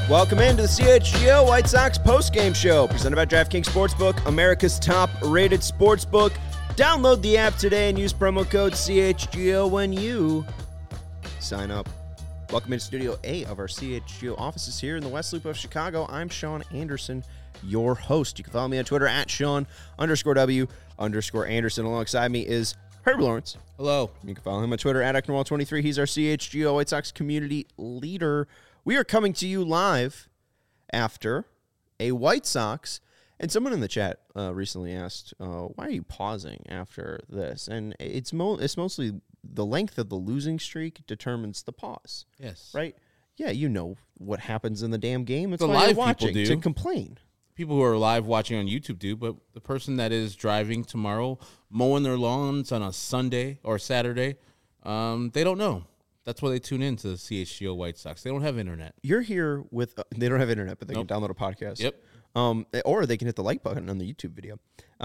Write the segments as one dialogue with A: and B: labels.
A: Welcome into the CHGO White Sox postgame show, presented by DraftKings Sportsbook, America's top-rated sportsbook. Download the app today and use promo code CHGO when you sign up. Welcome into Studio A of our CHGO offices here in the West Loop of Chicago. I'm Sean Anderson, your host. You can follow me on Twitter at Sean_W_Anderson. Alongside me is Herb Lawrence.
B: Hello.
A: You can follow him on Twitter at Ecknerwall23. He's our CHGO White Sox community leader. We are coming to you live after a White Sox, and someone in the chat recently asked, why are you pausing after this? And it's mostly the length of the losing streak determines the pause.
B: Yes.
A: Right? Yeah, you know what happens in the damn game. It's
B: the
A: why
B: live
A: you're watching
B: people do.
A: to complain.
B: People who are live watching on YouTube do, but the person that is driving tomorrow, mowing their lawns on a Sunday or Saturday, they don't know. That's why they tune in to the CHGO White Sox. They don't have internet.
A: You're here with they don't have internet, but they
B: Nope.
A: can download a podcast.
B: Yep.
A: Or they can hit the like button on the YouTube video.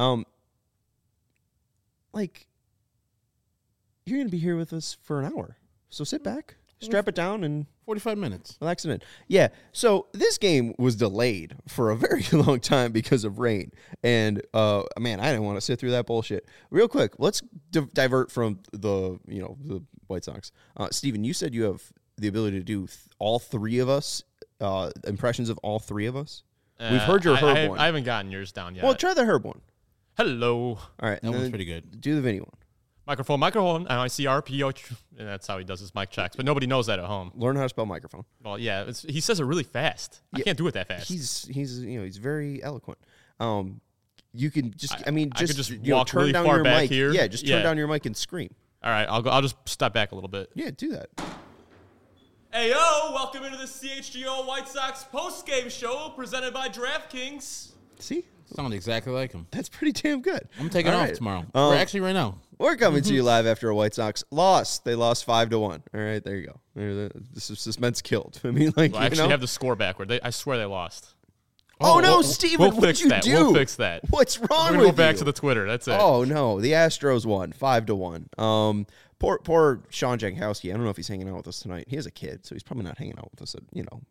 A: You're going to be here with us for an hour. So sit back, strap it down, and
B: 45 minutes.
A: relax it in. Yeah, so this game was delayed for a very long time because of rain. And, man, I didn't want to sit through that bullshit. Real quick, let's divert from the White Sox. Steven, you said you have the ability to do all three of us, impressions of all three of us. We've heard your Herb one.
C: I haven't gotten yours down yet.
A: Well, try the Herb one.
C: Hello.
A: All right.
B: That one's pretty good.
A: Do the Vinny one.
C: Microphone, MICRPO. And that's how he does his mic checks. But nobody knows that at home.
A: Learn how to spell microphone.
C: Well, yeah. He says it really fast. I can't do it that fast.
A: He's very eloquent. You can just
C: I could just walk
A: turn
C: really
A: down
C: far
A: your
C: back
A: mic.
C: here.
A: Yeah, just turn
C: Yeah.
A: down your mic and scream.
C: All right. I'll just step back a little bit.
A: Yeah, do that.
C: Hey, yo. Welcome into the CHGO White Sox postgame show presented by DraftKings.
A: See?
B: Sound exactly like him.
A: That's pretty damn good.
B: I'm taking
A: All
B: off
A: right.
B: tomorrow. Or actually right now.
A: We're coming to you live after a White Sox loss. They lost 5-1. All right, there you go. This is suspense killed. I mean, like,
C: Well, I actually have the score backward. I swear they lost.
A: Oh, no,
C: we'll-
A: Steven,
C: we'll
A: what'd
C: fix
A: you
C: that.
A: do?
C: We'll fix that.
A: What's
C: We're
A: wrong
C: going
A: with
C: to go back
A: you?
C: to the Twitter. That's it.
A: Oh, no, the Astros won 5-1. Poor Sean Jankowski. I don't know if he's hanging out with us tonight. He has a kid, so he's probably not hanging out with us at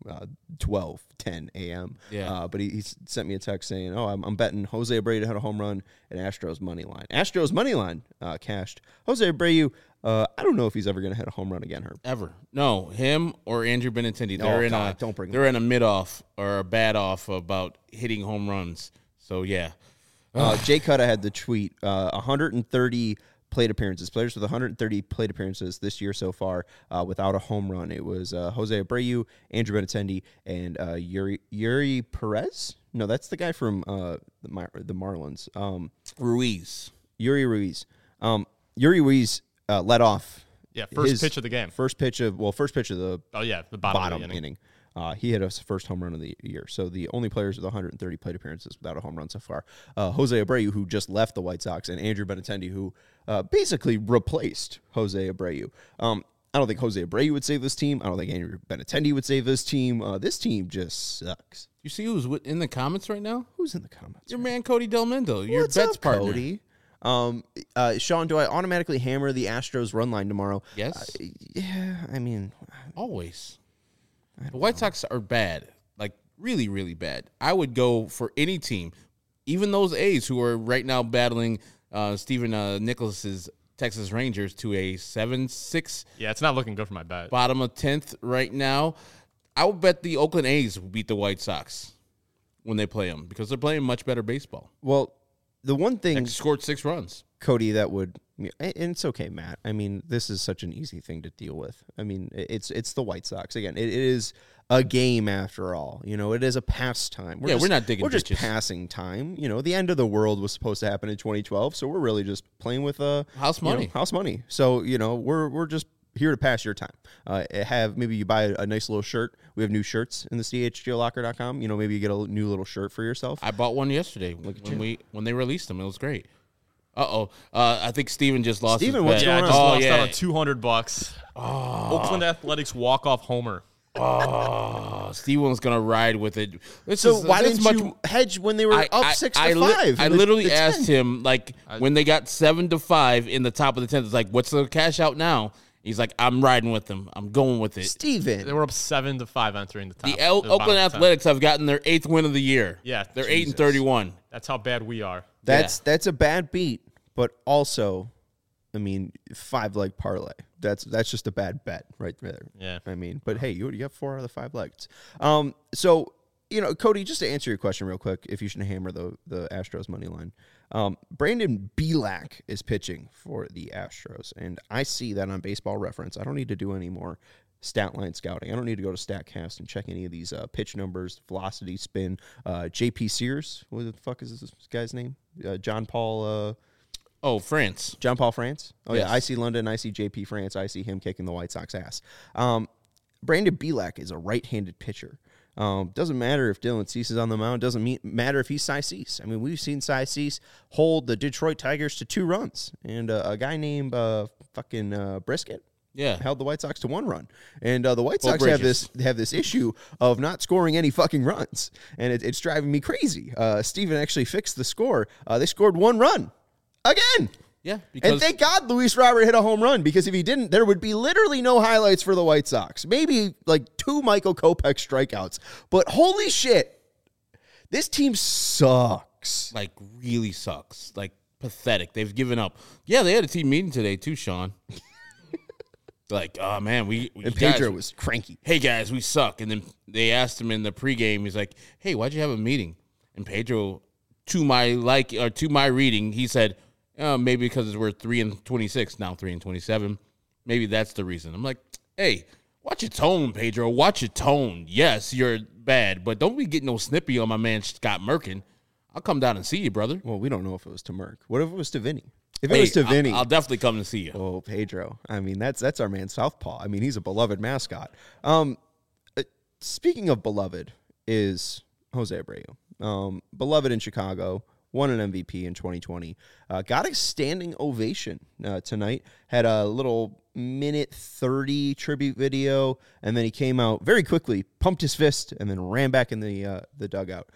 A: 10 a.m.
B: Yeah.
A: But he sent me a text saying, "Oh, I'm betting Jose Abreu to hit a home run and Astros money line. Astros money line cashed. Jose Abreu. I don't know if he's ever going to hit a home run again, Herb.
B: Ever. No, him or Andrew Benintendi. They're
A: don't bring
B: they're in a mid-off or a bad-off about hitting home runs. So, yeah.
A: Jay Cutta had the tweet, 130 plate appearances, players with 130 plate appearances this year so far without a home run. It was Jose Abreu, Andrew Benintendi, and Yuri Perez? No, that's the guy from the Marlins.
B: Ruiz.
A: Yuri Ruiz. Yuri Ruiz led off.
C: Yeah, first pitch of the game.
A: First pitch of the
C: Oh, yeah, the bottom of the inning.
A: inning. He hit his first home run of the year. So the only players with 130 plate appearances without a home run so far. Jose Abreu, who just left the White Sox, and Andrew Benintendi, who basically replaced Jose Abreu. I don't think Jose Abreu would save this team. I don't think Andrew Benintendi would save this team. This team just sucks.
B: You see who's in the comments right now?
A: Who's in the comments?
B: Your man, Cody Del Mendo. Your
A: What's
B: bets
A: up,
B: partner.
A: Cody? Sean, do I automatically hammer the Astros run line tomorrow?
B: Yes.
A: Yeah, I mean,
B: Always. The White Sox are bad, like really, really bad. I would go for any team, even those A's who are right now battling Stephen Nicholas's Texas Rangers to a 7-6.
C: Yeah, it's not looking good for my bet.
B: Bottom of 10th right now. I would bet the Oakland A's will beat the White Sox when they play them because they're playing much better baseball.
A: well, the one thing,
B: They scored 6 runs.
A: Cody, that would, and it's okay, Matt. I mean, this is such an easy thing to deal with. I mean, it's the White Sox. Again, it is a game after all. It is a pastime.
B: We're not digging
A: We're just
B: ditches.
A: passing time. The end of the world was supposed to happen in 2012, so we're really just playing with
B: House money.
A: house money. So we're just here to pass your time. Maybe you buy a nice little shirt. We have new shirts in the CHGOlocker.com. Maybe you get a new little shirt for yourself.
B: I bought one yesterday when they released them. It was great. I think Steven just lost
A: Steven,
B: his
A: what's
B: bet.
C: Yeah, I
A: going
C: just
A: on?
C: lost out
B: yeah.
C: on $200. Oakland Athletics walk-off homer.
B: Steven's going to ride with it.
A: So why didn't you hedge when they were up 6-5?
B: I literally asked him, like, when they got 7-5 in the top of the 10th, it's like, what's the cash out now? He's like, I'm riding with them. I'm going with it.
A: Steven.
C: They were up 7-5 entering the top.
B: The Oakland Athletics have gotten their 8th win of the year.
C: Yeah,
B: they're
C: Jesus.
B: 8-31.
C: That's how bad we are.
A: That's a bad beat, but also, I mean, 5-leg parlay. That's just a bad bet right there.
C: Yeah.
A: I mean, but hey, you got 4 out of the 5 legs. So, Cody, just to answer your question real quick, if you should hammer the Astros money line, Brandon Bielak is pitching for the Astros, and I see that on Baseball Reference. I don't need to do any more stat line scouting. I don't need to go to StatCast and check any of these pitch numbers, velocity, spin. J.P. Sears, what the fuck is this guy's name? John Paul
B: France.
A: John Paul France? Oh,
B: Yes.
A: yeah. I see London. I see JP France. I see him kicking the White Sox ass. Brandon Bielak is a right-handed pitcher. Doesn't matter if Dylan Cease is on the mound. Doesn't matter if he's Cy Cease. I mean, we've seen Cy Cease hold the Detroit Tigers to 2 runs. And a guy named Brisket held the White Sox to 1 run. And the White Sox have this issue of not scoring any fucking runs. And it's driving me crazy. Steven actually fixed the score. They scored 1 run. Again.
B: Yeah. Because
A: And thank God Luis Robert hit a home run, because if he didn't, there would be literally no highlights for the White Sox. Maybe like 2 Michael Kopech strikeouts. But holy shit, this team sucks.
B: like really sucks. Like pathetic. They've given up. Yeah, they had a team meeting today too, Sean. Like, oh man, we
A: And Pedro was cranky.
B: Hey guys, we suck. And then they asked him in the pregame, he's like, hey, why'd you have a meeting? And Pedro, to my reading, he said, maybe because we're 3-26, now 3-27. Maybe that's the reason. I'm like, hey, watch your tone, Pedro. Watch your tone. Yes, you're bad, but don't be getting no snippy on my man Scott Merkin. I'll come down and see you, brother.
A: Well, we don't know if it was to Merck. What if it was to Vinny? If it was to Vinny.
B: I'll definitely come to see you.
A: Oh, Pedro. I mean, that's our man Southpaw. I mean, he's a beloved mascot. Speaking of beloved is Jose Abreu. Beloved in Chicago. Won an MVP in 2020. Got a standing ovation tonight. Had a little minute 30 tribute video, and then he came out very quickly, pumped his fist, and then ran back in the dugout.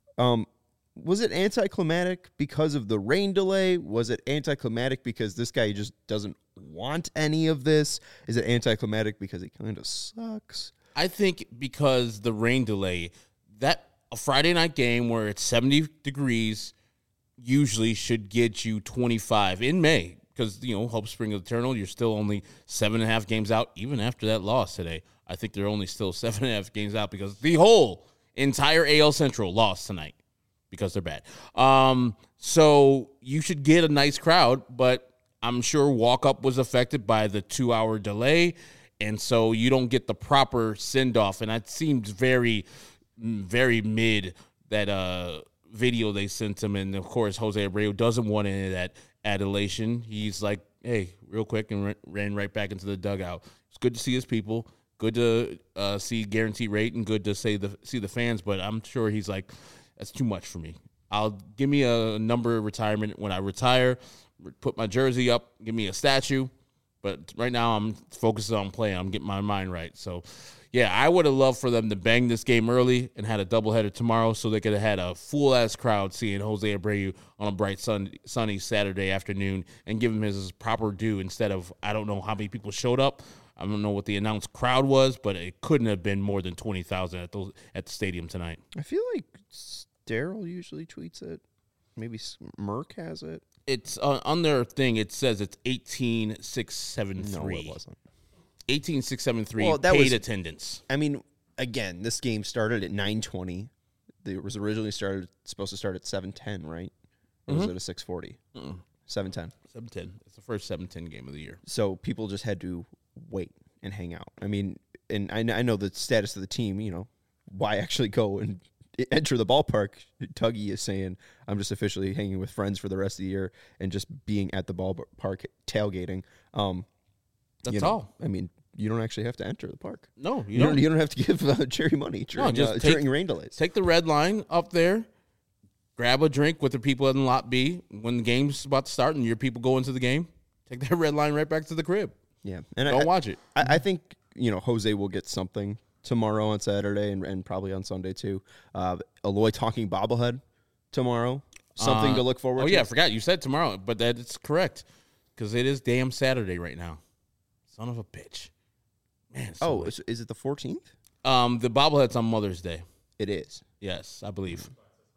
A: Was it anticlimactic because of the rain delay? Was it anticlimactic because this guy just doesn't want any of this? Is it anticlimactic because he kind of sucks?
B: I think because the rain delay, that a Friday night game where it's 70 degrees usually should get you 25 in May, because, Hope Spring Eternal, you're still only 7.5 games out, even after that loss today. I think they're only still 7.5 games out because the whole entire AL Central lost tonight because they're bad. So you should get a nice crowd, but I'm sure walk-up was affected by the 2-hour delay, and so you don't get the proper send-off, and that seems very, very mid, that video they sent him, and of course Jose Abreu doesn't want any of that adulation. He's like, hey, real quick, and ran right back into the dugout. It's good to see his people, good to see guaranteed rate, and good to see the fans, but I'm sure he's like, that's too much for me. Give me a number of retirement when I retire, put my jersey up, give me a statue, but right now I'm focused on playing. I'm getting my mind right. So yeah, I would have loved for them to bang this game early and had a doubleheader tomorrow so they could have had a full-ass crowd seeing Jose Abreu on a bright, sunny Saturday afternoon and give him his proper due instead of, I don't know how many people showed up. I don't know what the announced crowd was, but it couldn't have been more than 20,000 at the stadium tonight.
A: I feel like Daryl usually tweets it. Maybe Merck has it.
B: It's on their thing. It says it's 18,673.
A: No, it wasn't.
B: 18,673
A: Well, that
B: paid
A: was
B: attendance.
A: I mean, again, this game started at 9:20. It was originally supposed to start at 7:10, right? Or was it a 6:40? 7:10.
B: 7:10. It's the first 7:10 game of the year.
A: So people just had to wait and hang out. I mean, and I know the status of the team. Why actually go and enter the ballpark? Tuggy is saying, I'm just officially hanging with friends for the rest of the year and just being at the ballpark tailgating.
B: That's all.
A: I mean, you don't actually have to enter the park.
B: No,
A: You don't have to give Jerry money during rain delays.
B: Take the red line up there, grab a drink with the people in lot B. When the game's about to start and your people go into the game, take that red line right back to the crib.
A: Yeah. And
B: Don't watch it.
A: I think, Jose will get something tomorrow on Saturday and probably on Sunday too. Eloy talking bobblehead tomorrow. Something to look forward to.
B: Oh, yeah, I forgot. You said tomorrow, but that is correct because it is damn Saturday right now. Son of a bitch. Man.
A: Oh, is it the 14th?
B: The bobblehead's on Mother's Day.
A: It is.
B: Yes, I believe.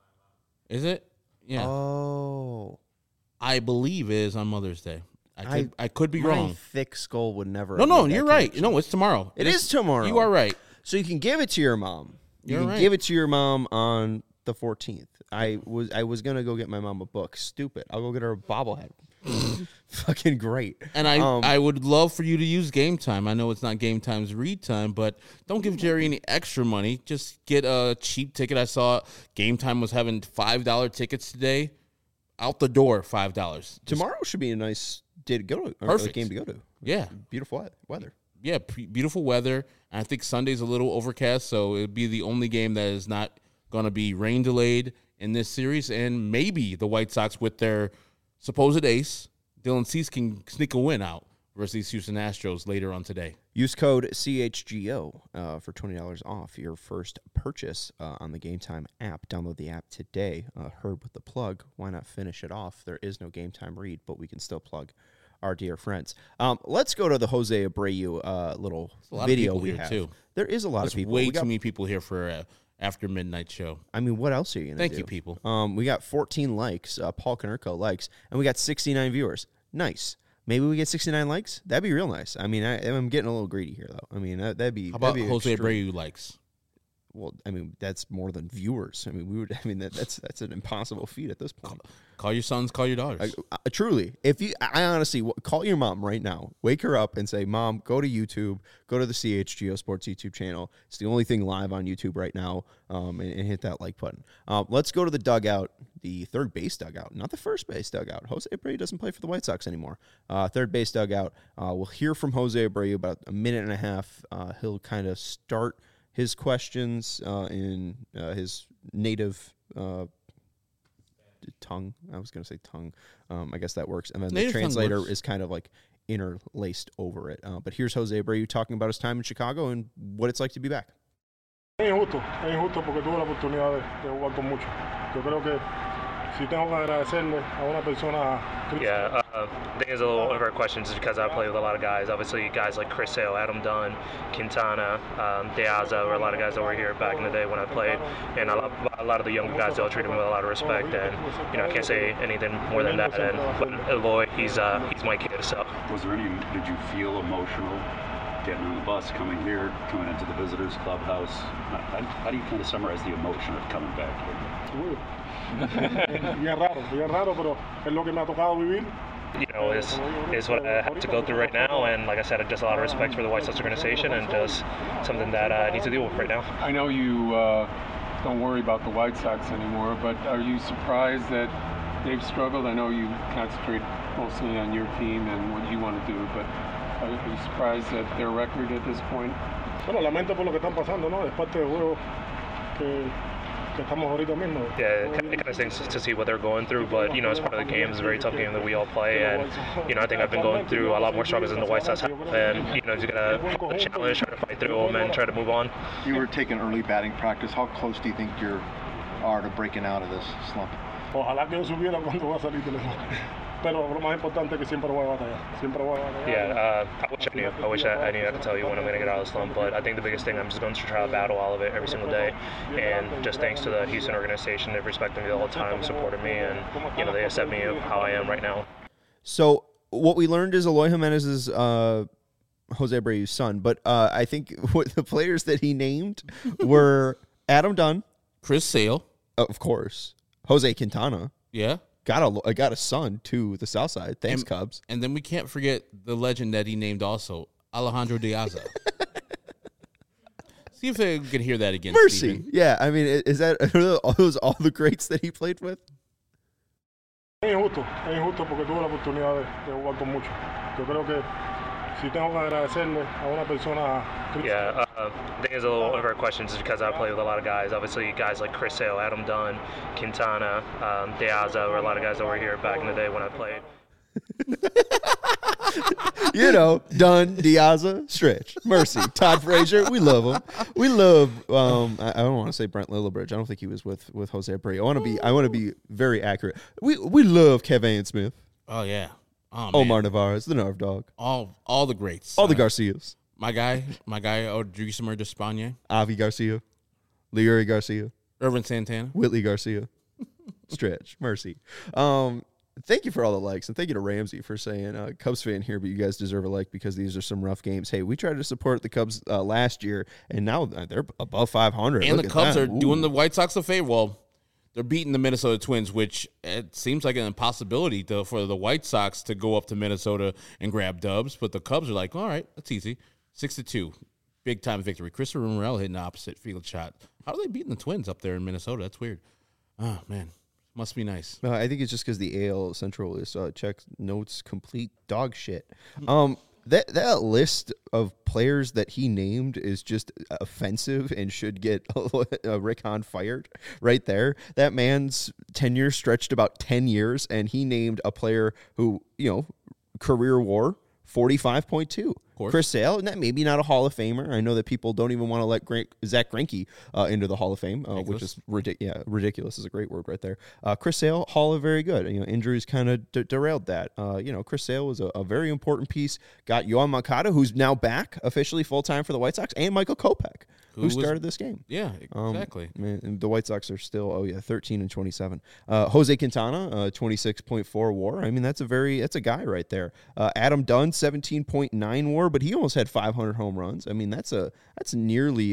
B: Is it? Yeah.
A: Oh.
B: I believe it is on Mother's Day. I could be wrong.
A: My thick skull would never.
B: No, you're right. No, it's tomorrow.
A: It is tomorrow.
B: You are right.
A: So you can give it to your mom.
B: You're right.
A: Give it to your mom on the 14th. I was gonna go get my mom a book. Stupid. I'll go get her a bobblehead. Fucking great.
B: And I would love for you to use Game Time. I know it's not Game Time's read time, but don't give Jerry any extra money. Just get a cheap ticket. I saw Game Time was having $5 tickets today. Out the door, $5.
A: Tomorrow should be a nice day to go to.
B: Perfect.
A: Game to go to.
B: Yeah.
A: Beautiful weather.
B: Yeah, beautiful weather. And I think Sunday's a little overcast, so it'd be the only game that is not going to be rain delayed in this series. And maybe the White Sox, with their supposed ace, Dylan Cease, can sneak a win out versus these Houston Astros later on today.
A: Use code CHGO for $20 off your first purchase on the Game Time app. Download the app today. Herb with the plug. Why not finish it off? There is no Game Time read, but we can still plug our dear friends. Let's go to the Jose Abreu little video we have. Too. There is a lot of people.
B: Way too many people here for after midnight show.
A: I mean, what else are you going to do?
B: Thank you, people.
A: We got 14 likes. Paul Konerko likes, and we got 69 viewers. Nice. Maybe we get 69 likes. That'd be real nice. I mean, I'm getting a little greedy here, though. I mean, that'd be.
B: How about
A: that'd be
B: Jose
A: extreme.
B: Abreu likes?
A: Well, I mean, that's more than viewers. I mean, that's an impossible feat at this point.
B: Call your sons, call your daughters.
A: Truly, I honestly call your mom right now. Wake her up and say, "Mom, go to YouTube, go to the CHGO Sports YouTube channel. It's the only thing live on YouTube right now." And hit that like button. Let's go to the dugout, the third base dugout, not the first base dugout. Jose Abreu doesn't play for the White Sox anymore. Third base dugout. We'll hear from Jose Abreu about a minute and a half. He'll kind of start his questions in his native tongue. I was going to say tongue. I guess that works. And then native the translator is kind of like interlaced over it. But here's Jose Abreu talking about his time in Chicago and what it's like to be back.
D: Es injusto porque tuve la oportunidad de jugar con muchos. Yo creo que si tengo que agradecerle a una persona.
E: Yeah, I think it's a little one of our questions is because I play with a lot of guys. Obviously, guys like Chris Sale, Adam Dunn, Quintana, De Aza were a lot of guys that were here back in the day when I played. And a lot of the younger guys, they'll treat him with a lot of respect. And, I can't say anything more than that. But Eloy, he's my kid, so.
F: Did you feel emotional getting on the bus, coming here, coming into the visitors clubhouse? How do you kind of summarize the emotion of coming back here?
D: Bien raro, pero es lo que me ha tocado vivir.
E: Is what I have to go through right now, and like I said, just a lot of respect for the White Sox organization, and just something that I need to deal with right now.
G: I know you don't worry about the White Sox anymore, but are you surprised that they've struggled? I know you concentrate mostly on your team and what you want to do, but are you surprised at their record at this point?
D: Bueno, lamento por lo que están pasando, ¿no? Es parte del juego que estamos ahorita mismo.
E: Yeah, it kind of stinks to see what they're going through, but it's part of the game. It's a very tough game that we all play, and I think I've been going through a lot more struggles than the White Sox have, and just gotta challenge, try to fight through them, and try to move on.
H: You were taking early batting practice. How close do you think you are to breaking out of this slump?
D: Ojalá que yo supiera cuándo va a salir del slump. Pero lo más importante es que siempre voy a batallar.
E: Yeah, I wish I knew. I wish I knew I could tell you when I'm going to get out of the slump. But I think the biggest thing, I'm just going to try to battle all of it every single day. And just thanks to the Houston organization, they've respected me the whole time, supported me, and they accept me how I am right now.
A: So what we learned is Eloy Jimenez is Jose Abreu's son. But I think what the players that he named were Adam Dunn,
B: Chris Sale,
A: of course, Jose Quintana.
B: Yeah.
A: Got a son to the South Side. Thanks, Cubs.
B: And then we can't forget the legend that he named also, Alejandro De Aza. See if they can hear that again.
A: Mercy.
B: Steven.
A: Yeah, I mean, are those all the greats that he played with?
D: Es injusto porque tuve la oportunidad de jugar con muchos. Yo creo que si tengo que agradecerle a una persona.
E: Yeah, I think it's a little one of our questions is because I play with a lot of guys. Obviously, guys like Chris Sale, Adam Dunn, Quintana, De Aza were a lot of guys that were here back in the day when I played.
A: Dunn, Diaza, Stretch, Mercy, Todd Frazier. We love them. We love. I don't want to say Brent Lillibridge. I don't think he was with Jose Abreu. I want to be very accurate. We love Kevin Smith.
B: Oh yeah. Oh,
A: Omar Narvaez, the Narv Dog.
B: All the greats.
A: All the Garcias.
B: My guy, Odrisamer Despaigne.
A: Avi Garcia. Leury Garcia.
B: Irvin Santana.
A: Whitley Garcia. Stretch. Mercy. Thank you for all the likes, and thank you to Ramsey for saying, Cubs fan here, but you guys deserve a like because these are some rough games. Hey, we tried to support the Cubs last year, and now they're above 500.
B: And
A: Look
B: the
A: at
B: Cubs
A: that.
B: are doing the White Sox a favor. Well, they're beating the Minnesota Twins, which it seems like an impossibility for the White Sox to go up to Minnesota and grab dubs. But the Cubs are like, all right, that's easy. 6-2. Big-time victory. Christopher Morel hitting the opposite field shot. How are they beating the Twins up there in Minnesota? That's weird. Oh, man. Must be nice.
A: I think it's just because the AL Central is check notes complete dog shit. That list of players that he named is just offensive and should get Rick Hahn fired right there. That man's tenure stretched about 10 years, and he named a player who, career WAR 45.2. Chris Sale, maybe not a Hall of Famer. I know that people don't even want to let Zach Greinke into the Hall of Fame, which is ridiculous is a great word right there. Chris Sale, Hall of very good. Injuries kind of derailed that. Chris Sale was a very important piece. Got Yoan Moncada, who's now back officially full-time for the White Sox, and Michael Kopech, who started this game.
B: Yeah, exactly.
A: And the White Sox are still, 13-27. Jose Quintana, 26.4 WAR. I mean, that's a guy right there. Adam Dunn, 17.9 WAR, but he almost had 500 home runs. I mean, that's nearly.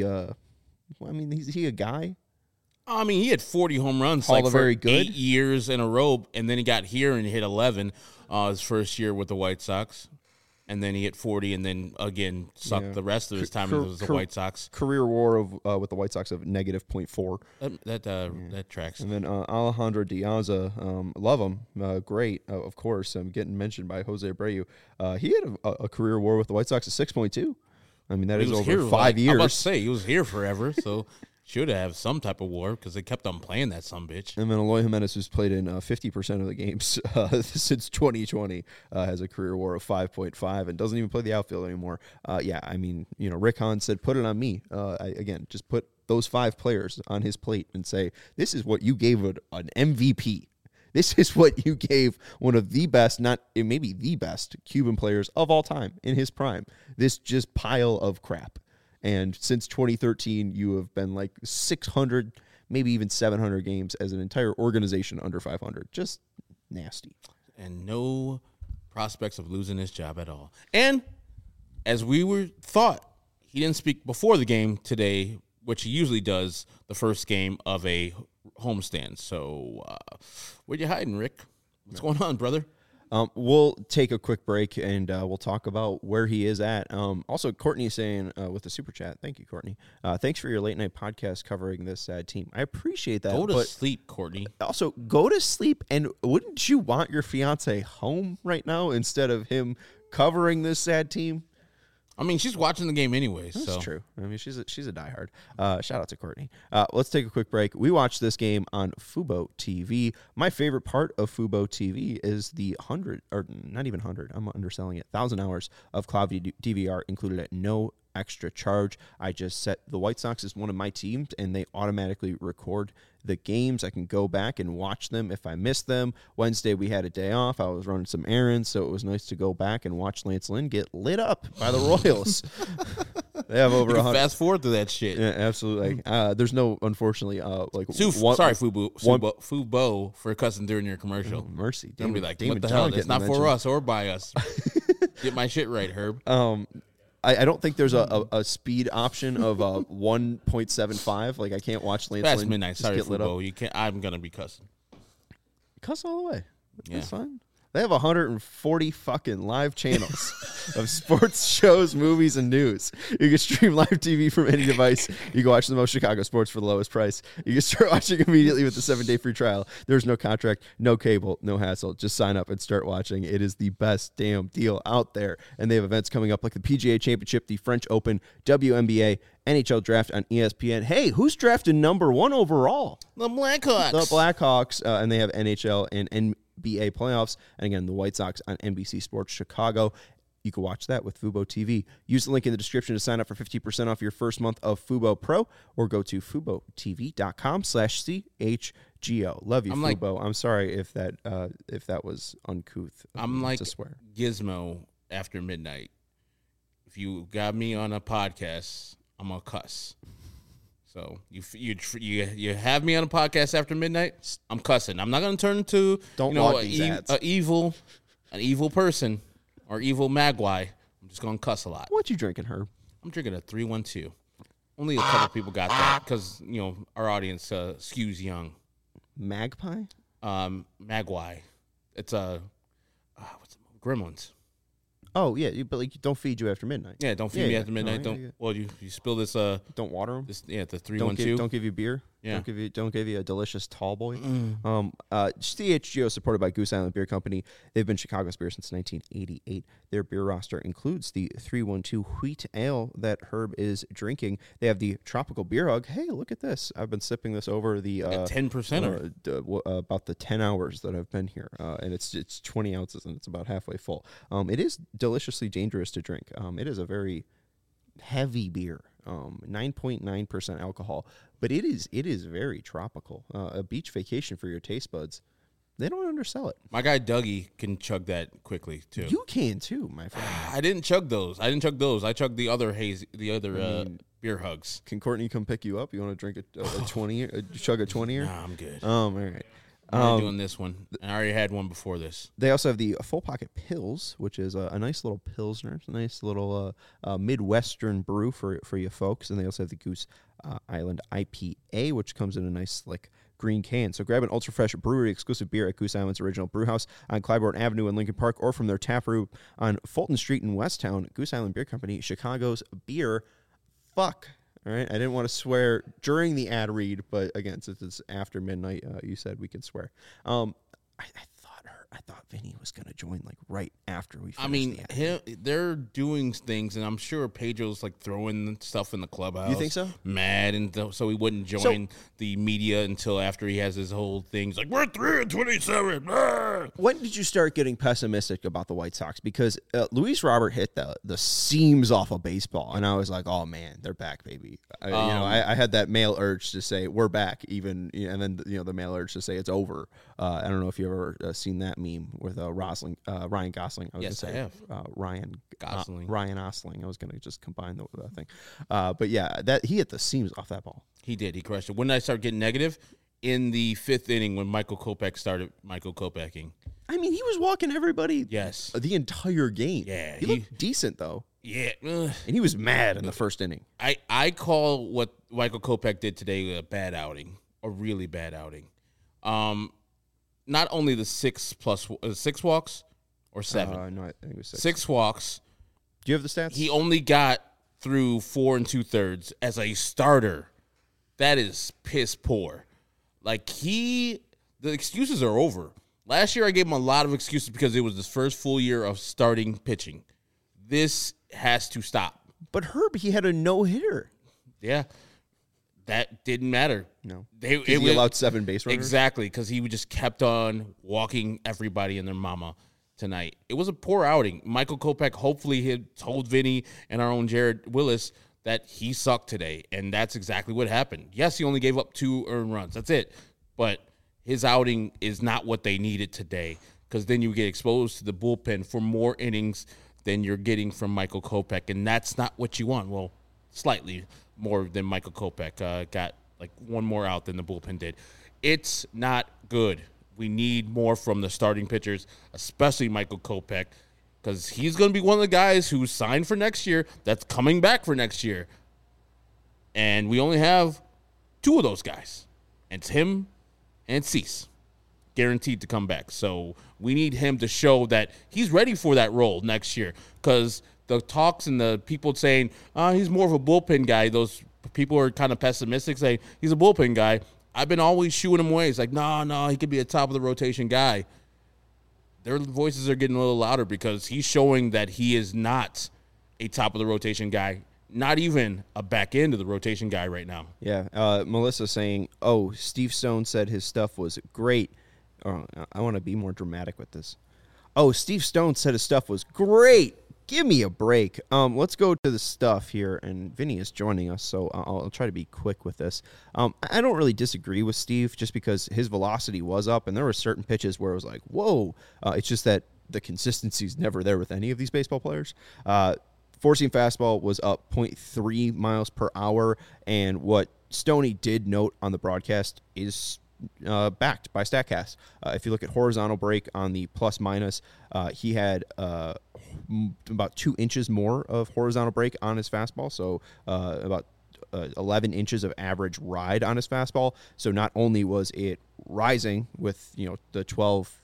A: Is he a guy?
B: I mean, he had 40 home runs
A: for very good
B: 8 years in a row, and then he got here and hit 11 his first year with the White Sox. And then he hit 40, and then again sucked the rest of his time with the White Sox.
A: Career WAR with the White Sox of -0.4.
B: That tracks.
A: And then Alejandro Diaz, love him, great, of course. Getting mentioned by Jose Abreu. He had a career WAR with the White Sox of 6.2. I mean, that is over 5 years.
B: I was about to say he was here forever, so. Should have some type of WAR because they kept on playing that sumbitch.
A: And then Eloy Jimenez, who's played in 50% of the games since 2020, has a career WAR of 5.5 and doesn't even play the outfield anymore. Rick Hahn said, put it on me. Just put those 5 players on his plate and say, this is what you gave an MVP. This is what you gave one of the best, maybe the best Cuban players of all time in his prime. This just pile of crap. And since 2013, you have been like 600, maybe even 700 games as an entire organization under 500. Just nasty.
B: And no prospects of losing his job at all. And as we thought, he didn't speak before the game today, which he usually does the first game of a homestand. So where you hiding, Rick? What's going on, brother?
A: We'll take a quick break and we'll talk about where he is at. Also, Courtney saying with the super chat, thank you, Courtney. Thanks for your late night podcast covering this sad team. I appreciate that.
B: Go to sleep, Courtney.
A: Also, go to sleep. And wouldn't you want your fiance home right now instead of him covering this sad team?
B: I mean, she's watching the game anyways.
A: That's true. I mean, she's a diehard. Shout out to Courtney. Let's take a quick break. We watched this game on Fubo TV. My favorite part of Fubo TV is the 100, or not even 100, I'm underselling it, 1,000 hours of cloud DVR included at no extra charge. I just set the White Sox as one of my teams, and they automatically record the games. I can go back and watch them if I miss them. Wednesday, we had a day off. I was running some errands, so it was nice to go back and watch Lance Lynn get lit up by the Royals. They have over 100.
B: Fast forward through that shit.
A: Yeah, absolutely. There's no, unfortunately,
B: Fubo for cussing during your commercial.
A: Oh, mercy.
B: Don't be like, what the hell? That's not for us or by us. Get my shit right, Herb.
A: I don't think there's a speed option of 1.75. Like, I can't watch Lance
B: Past
A: Lynn
B: midnight.
A: just
B: Sorry,
A: get lit up.
B: Fubo. You can't. I'm gonna be cussing.
A: Cuss all the way.
B: Yeah.
A: That's fine. They have 140 fucking live channels of sports shows, movies, and news. You can stream live TV from any device. You can watch the most Chicago sports for the lowest price. You can start watching immediately with the 7-day free trial. There's no contract, no cable, no hassle. Just sign up and start watching. It is the best damn deal out there. And they have events coming up like the PGA Championship, the French Open, WNBA, NHL draft on ESPN. Hey, who's drafted number 1 overall?
B: The Blackhawks.
A: The Blackhawks. And they have NHL and NBA playoffs. And again, the White Sox on NBC Sports Chicago. You can watch that with Fubo TV. Use the link in the description to sign up for 50% off your first month of Fubo Pro, or go to FuboTV.com/CHGO. Love you, Fubo. I'm sorry if that was uncouth.
B: I'm like
A: to swear.
B: Gizmo after midnight. If you got me on a podcast, I'm gonna cuss. So you have me on a podcast after midnight, I'm cussing. I'm not gonna turn into an evil person or evil magwai. I'm just gonna cuss a lot.
A: What you drinking, Herb?
B: I'm drinking a 312. Only a couple people got that because our audience skews young.
A: Magpie?
B: Magwai. It's a Gremlins.
A: Oh yeah, but like don't feed you after midnight.
B: Yeah, don't feed me after midnight. Well, you spill this.
A: Don't water them.
B: The 312.
A: Don't give you beer.
B: Yeah.
A: Don't give you a delicious tall boy. CHGO supported by Goose Island Beer Company. They've been Chicago's beer since 1988. Their beer roster includes the 312 Wheat Ale that Herb is drinking. They have the Tropical Beer Hug. Hey, look at this! I've been sipping this over the
B: 10%.
A: About the 10 hours that I've been here, and it's 20 ounces and it's about halfway full. It is deliciously dangerous to drink. It is a very heavy beer. 9.9% alcohol, but it is very tropical. A beach vacation for your taste buds. They don't undersell it.
B: My guy Dougie can chug that quickly too.
A: You can too, my friend.
B: I didn't chug those. I chugged the other beer hugs.
A: Can Courtney come pick you up? You want to drink a 20? Chug a 20?
B: Nah, I'm good.
A: All right.
B: I'm doing this one. I already had one before this.
A: They also have the Full Pocket Pils, which is a nice little Pilsner. It's a nice little Midwestern brew for you folks. And they also have the Goose Island IPA, which comes in a nice, slick green can. So grab an ultra-fresh brewery-exclusive beer at Goose Island's original brew house on Clybourne Avenue in Lincoln Park, or from their tap room on Fulton Street in Westtown. Goose Island Beer Company, Chicago's beer. Fuck. All right, I didn't want to swear during the ad read, but again, since it's after midnight, you said we could swear. I thought Vinny was going to join like right after we finished the ad.
B: They're doing things, and I'm sure Pedro's like throwing stuff in the clubhouse.
A: You think so?
B: Mad, and so he wouldn't join the media until after he has his whole thing. He's like, we're 3-27.
A: When did you start getting pessimistic about the White Sox? Because Luis Robert hit the seams off of baseball, and I was like, oh man, they're back, baby. I had that male urge to say we're back, even, and then the male urge to say it's over. I don't know if you ever seen that meme with Ryan Gosling.
B: I have.
A: Ryan
B: Gosling.
A: Ryan Osling. I was going to just combine the thing. But yeah, that he hit the seams off that ball.
B: He did. He crushed it. When did I start getting negative? In the fifth inning when Michael Kopech started Michael Kopeching.
A: I mean, he was walking everybody the entire game.
B: Yeah.
A: He looked decent, though.
B: Yeah.
A: And he was mad in the first inning.
B: I call what Michael Kopech did today a bad outing, a really bad outing. Not only the 6 walks or 7.
A: No, I think it was 6.
B: 6 walks.
A: Do you have the stats?
B: He only got through 4 2/3 as a starter. That is piss poor. Like the excuses are over. Last year I gave him a lot of excuses because it was his first full year of starting pitching. This has to stop.
A: But Herb, he had a no-hitter.
B: Yeah. That didn't matter.
A: No.
B: He
A: allowed 7 base runners?
B: Exactly, because he just kept on walking everybody and their mama tonight. It was a poor outing. Michael Kopech hopefully had told Vinny and our own Jared Willis that he sucked today, and that's exactly what happened. Yes, he only gave up 2 earned runs. That's it. But his outing is not what they needed today, because then you get exposed to the bullpen for more innings than you're getting from Michael Kopech, and that's not what you want. Well, slightly more than Michael Kopech got like 1 more out than the bullpen did. It's not good. We need more from the starting pitchers, especially Michael Kopech, because he's going to be one of the guys who's signed for next year that's coming back for next year. And we only have 2 of those guys. And it's him and Cease, guaranteed to come back. So we need him to show that he's ready for that role next year, because the talks and the people saying, he's more of a bullpen guy, those people are kind of pessimistic, saying he's a bullpen guy. I've been always shooing him away. It's like, no, he could be a top-of-the-rotation guy. Their voices are getting a little louder because he's showing that he is not a top-of-the-rotation guy, not even a back-end-of-the-rotation guy right now.
A: Yeah, Melissa saying, Steve Stone said his stuff was great. I want to be more dramatic with this. Steve Stone said his stuff was great. Give me a break. Let's go to the stuff here, and Vinny is joining us, so I'll try to be quick with this. I don't really disagree with Steve, just because his velocity was up, and there were certain pitches where it was like, whoa. It's just that the consistency is never there with any of these baseball players. Four-seam fastball was up 0.3 miles per hour, and what Stoney did note on the broadcast is backed by StatCast. If you look at horizontal break on the plus minus, he had about 2 inches more of horizontal break on his fastball, so about 11 inches of average ride on his fastball. So not only was it rising with the 12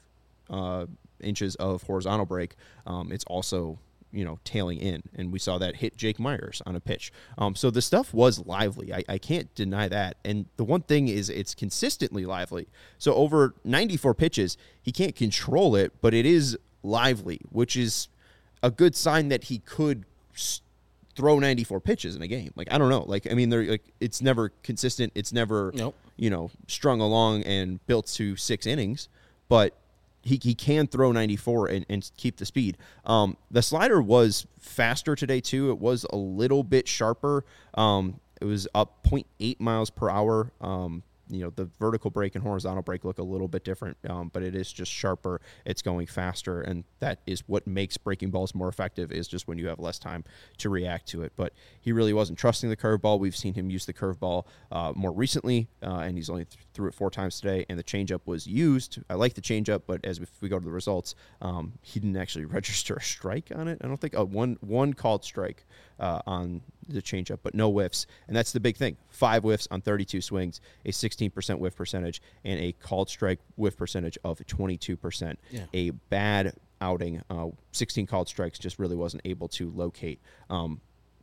A: inches of horizontal break, it's also tailing in, and we saw that hit Jake Myers on a pitch. So the stuff was lively. I can't deny that. And the one thing is it's consistently lively. So over 94 pitches, he can't control it, but it is lively, which is a good sign that he could throw 94 pitches in a game. Like, I don't know. Like, I mean, they're like, it's never consistent. It's never, strung along and built to 6 innings, but he can throw 94 and keep the speed. The slider was faster today, too. It was a little bit sharper. It was up 0.8 miles per hour. The vertical break and horizontal break look a little bit different, but it is just sharper. It's going faster, and that is what makes breaking balls more effective, is just when you have less time to react to it. But he really wasn't trusting the curveball. We've seen him use the curveball more recently, and he's only threw it 4 times today, and the changeup was used. I like the changeup, but as we go to the results, he didn't actually register a strike on it. I don't think one called strike on the changeup, but no whiffs. And that's the big thing. 5 whiffs on 32 swings, a 16% whiff percentage, and a called strike whiff percentage of 22%.
B: Yeah.
A: A bad outing. 16 called strikes, just really wasn't able to locate.
B: And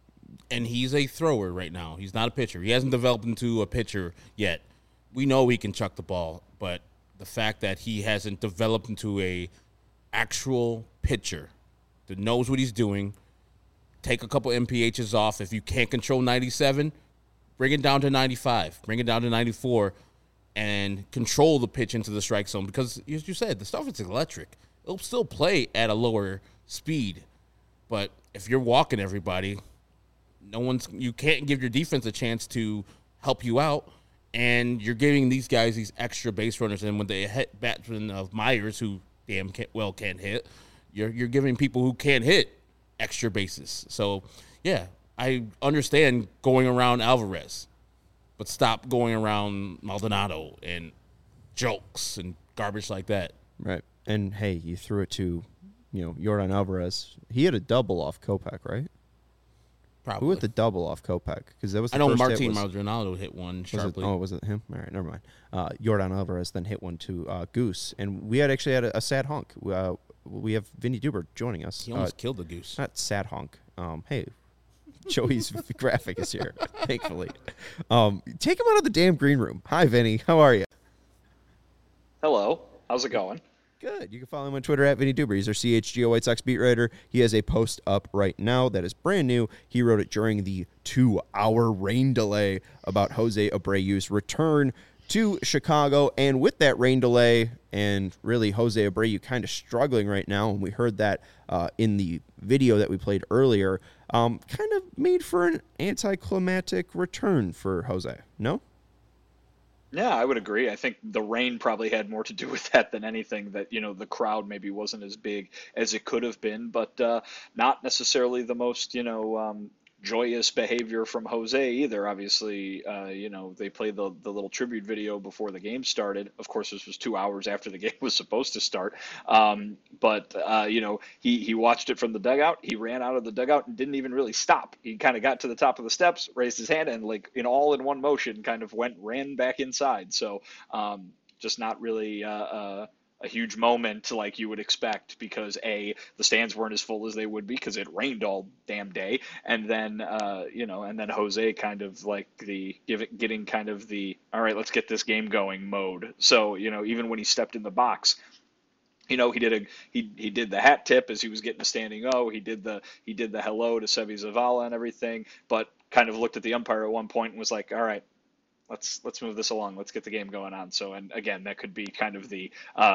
B: he's a thrower right now. He's not a pitcher. He hasn't developed into a pitcher yet. We know he can chuck the ball, but the fact that he hasn't developed into a actual pitcher that knows what he's doing, take a couple MPHs off. If you can't control 97, bring it down to 95. Bring it down to 94 and control the pitch into the strike zone, because, as you said, the stuff is electric. It'll still play at a lower speed, but if you're walking everybody, you can't give your defense a chance to help you out, and you're giving these guys these extra base runners, and when they hit batsmen of Myers, who can't hit, you're giving people who can't hit extra bases. So, yeah, I understand going around Alvarez, but stop going around Maldonado and jokes and garbage like that.
A: Right. And, hey, you threw it to, Yordan Alvarez. He had a double off Kopech, right?
B: Probably.
A: Who hit the double off Kopech? Because that was the
B: I know
A: first
B: Martin
A: hit
B: Maldonado hit one sharply.
A: Was it him? All right, never mind. Yordan Alvarez then hit one to Goose. And we had a sad honk. We have Vinny Duber joining us.
B: He almost killed the Goose.
A: Not sad honk. Hey, Joey's graphic is here, thankfully. Take him out of the damn green room. Hi, Vinny. How are you?
I: Hello. How's it going?
A: Good. You can follow him on Twitter at Vinny Duber. He's our CHGO White Sox beat writer. He has a post up right now that is brand new. He wrote it during the 2-hour rain delay about Jose Abreu's return to Chicago. And with that rain delay and really Jose Abreu kind of struggling right now, and we heard that in the video that we played earlier, kind of made for an anticlimactic return for Jose. No?
I: Yeah, I would agree. I think the rain probably had more to do with that than anything, that, the crowd maybe wasn't as big as it could have been, but not necessarily the most, joyous behavior from Jose either. Obviously, they played the little tribute video before the game started. Of course, this was 2 hours after the game was supposed to start. But he watched it from the dugout. He ran out of the dugout and didn't even really stop. He kind of got to the top of the steps, raised his hand, and all in one motion kind of ran back inside. So just not really a huge moment like you would expect, because the stands weren't as full as they would be because it rained all damn day, and then and then Jose kind of like getting kind of the all right, let's get this game going mode. So even when he stepped in the box, he did the hat tip as he was getting a standing O. He did the hello to Seby Zavala and everything, but kind of looked at the umpire at one point and was like, all right, let's move this along. Let's get the game going on. So, and again, that could be kind of the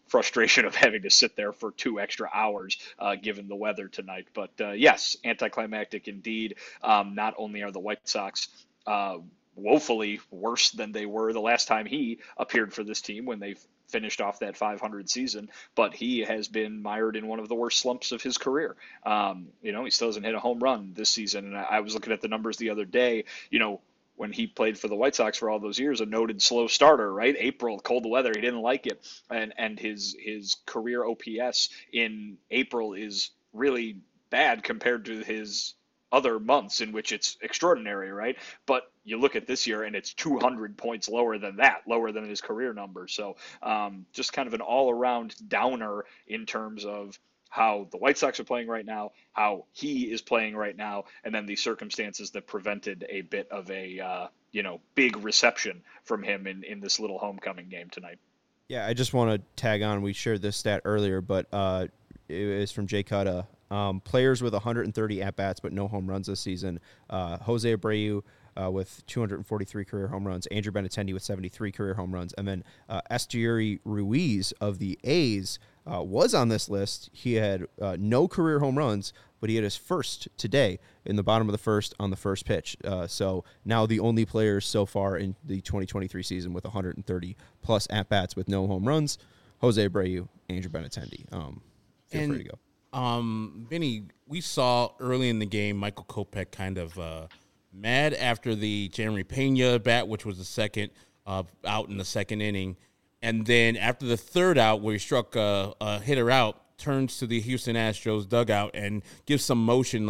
I: frustration of having to sit there for 2 extra hours given the weather tonight. But yes, anticlimactic indeed. Not only are the White Sox woefully worse than they were the last time he appeared for this team when they finished off that 500 season, but he has been mired in one of the worst slumps of his career. He still hasn't hit a home run this season. And I was looking at the numbers the other day, when he played for the White Sox for all those years, a noted slow starter, right? April, cold weather, he didn't like it. And his career OPS in April is really bad compared to his other months in which it's extraordinary, right? But you look at this year and it's 200 points lower than that, lower than his career number. So just kind of an all-around downer in terms of how the White Sox are playing right now, how he is playing right now, and then the circumstances that prevented a bit of a big reception from him in this little homecoming game tonight.
A: Yeah, I just want to tag on. We shared this stat earlier, but it is from Jay Cutta. Players with 130 at-bats but no home runs this season. Jose Abreu with 243 career home runs. Andrew Benintendi with 73 career home runs. And then Esteury Ruiz of the A's was on this list. He had no career home runs, but he had his first today in the bottom of the first on the first pitch. So now the only players so far in the 2023 season with 130-plus at-bats with no home runs, Jose Abreu, Andrew Benintendi. Feel free to go.
B: Vinny, we saw early in the game Michael Kopech kind of mad after the Jeremy Pena bat, which was the second out in the second inning. And then after the third out, where he struck a hitter out, turns to the Houston Astros dugout and gives some motion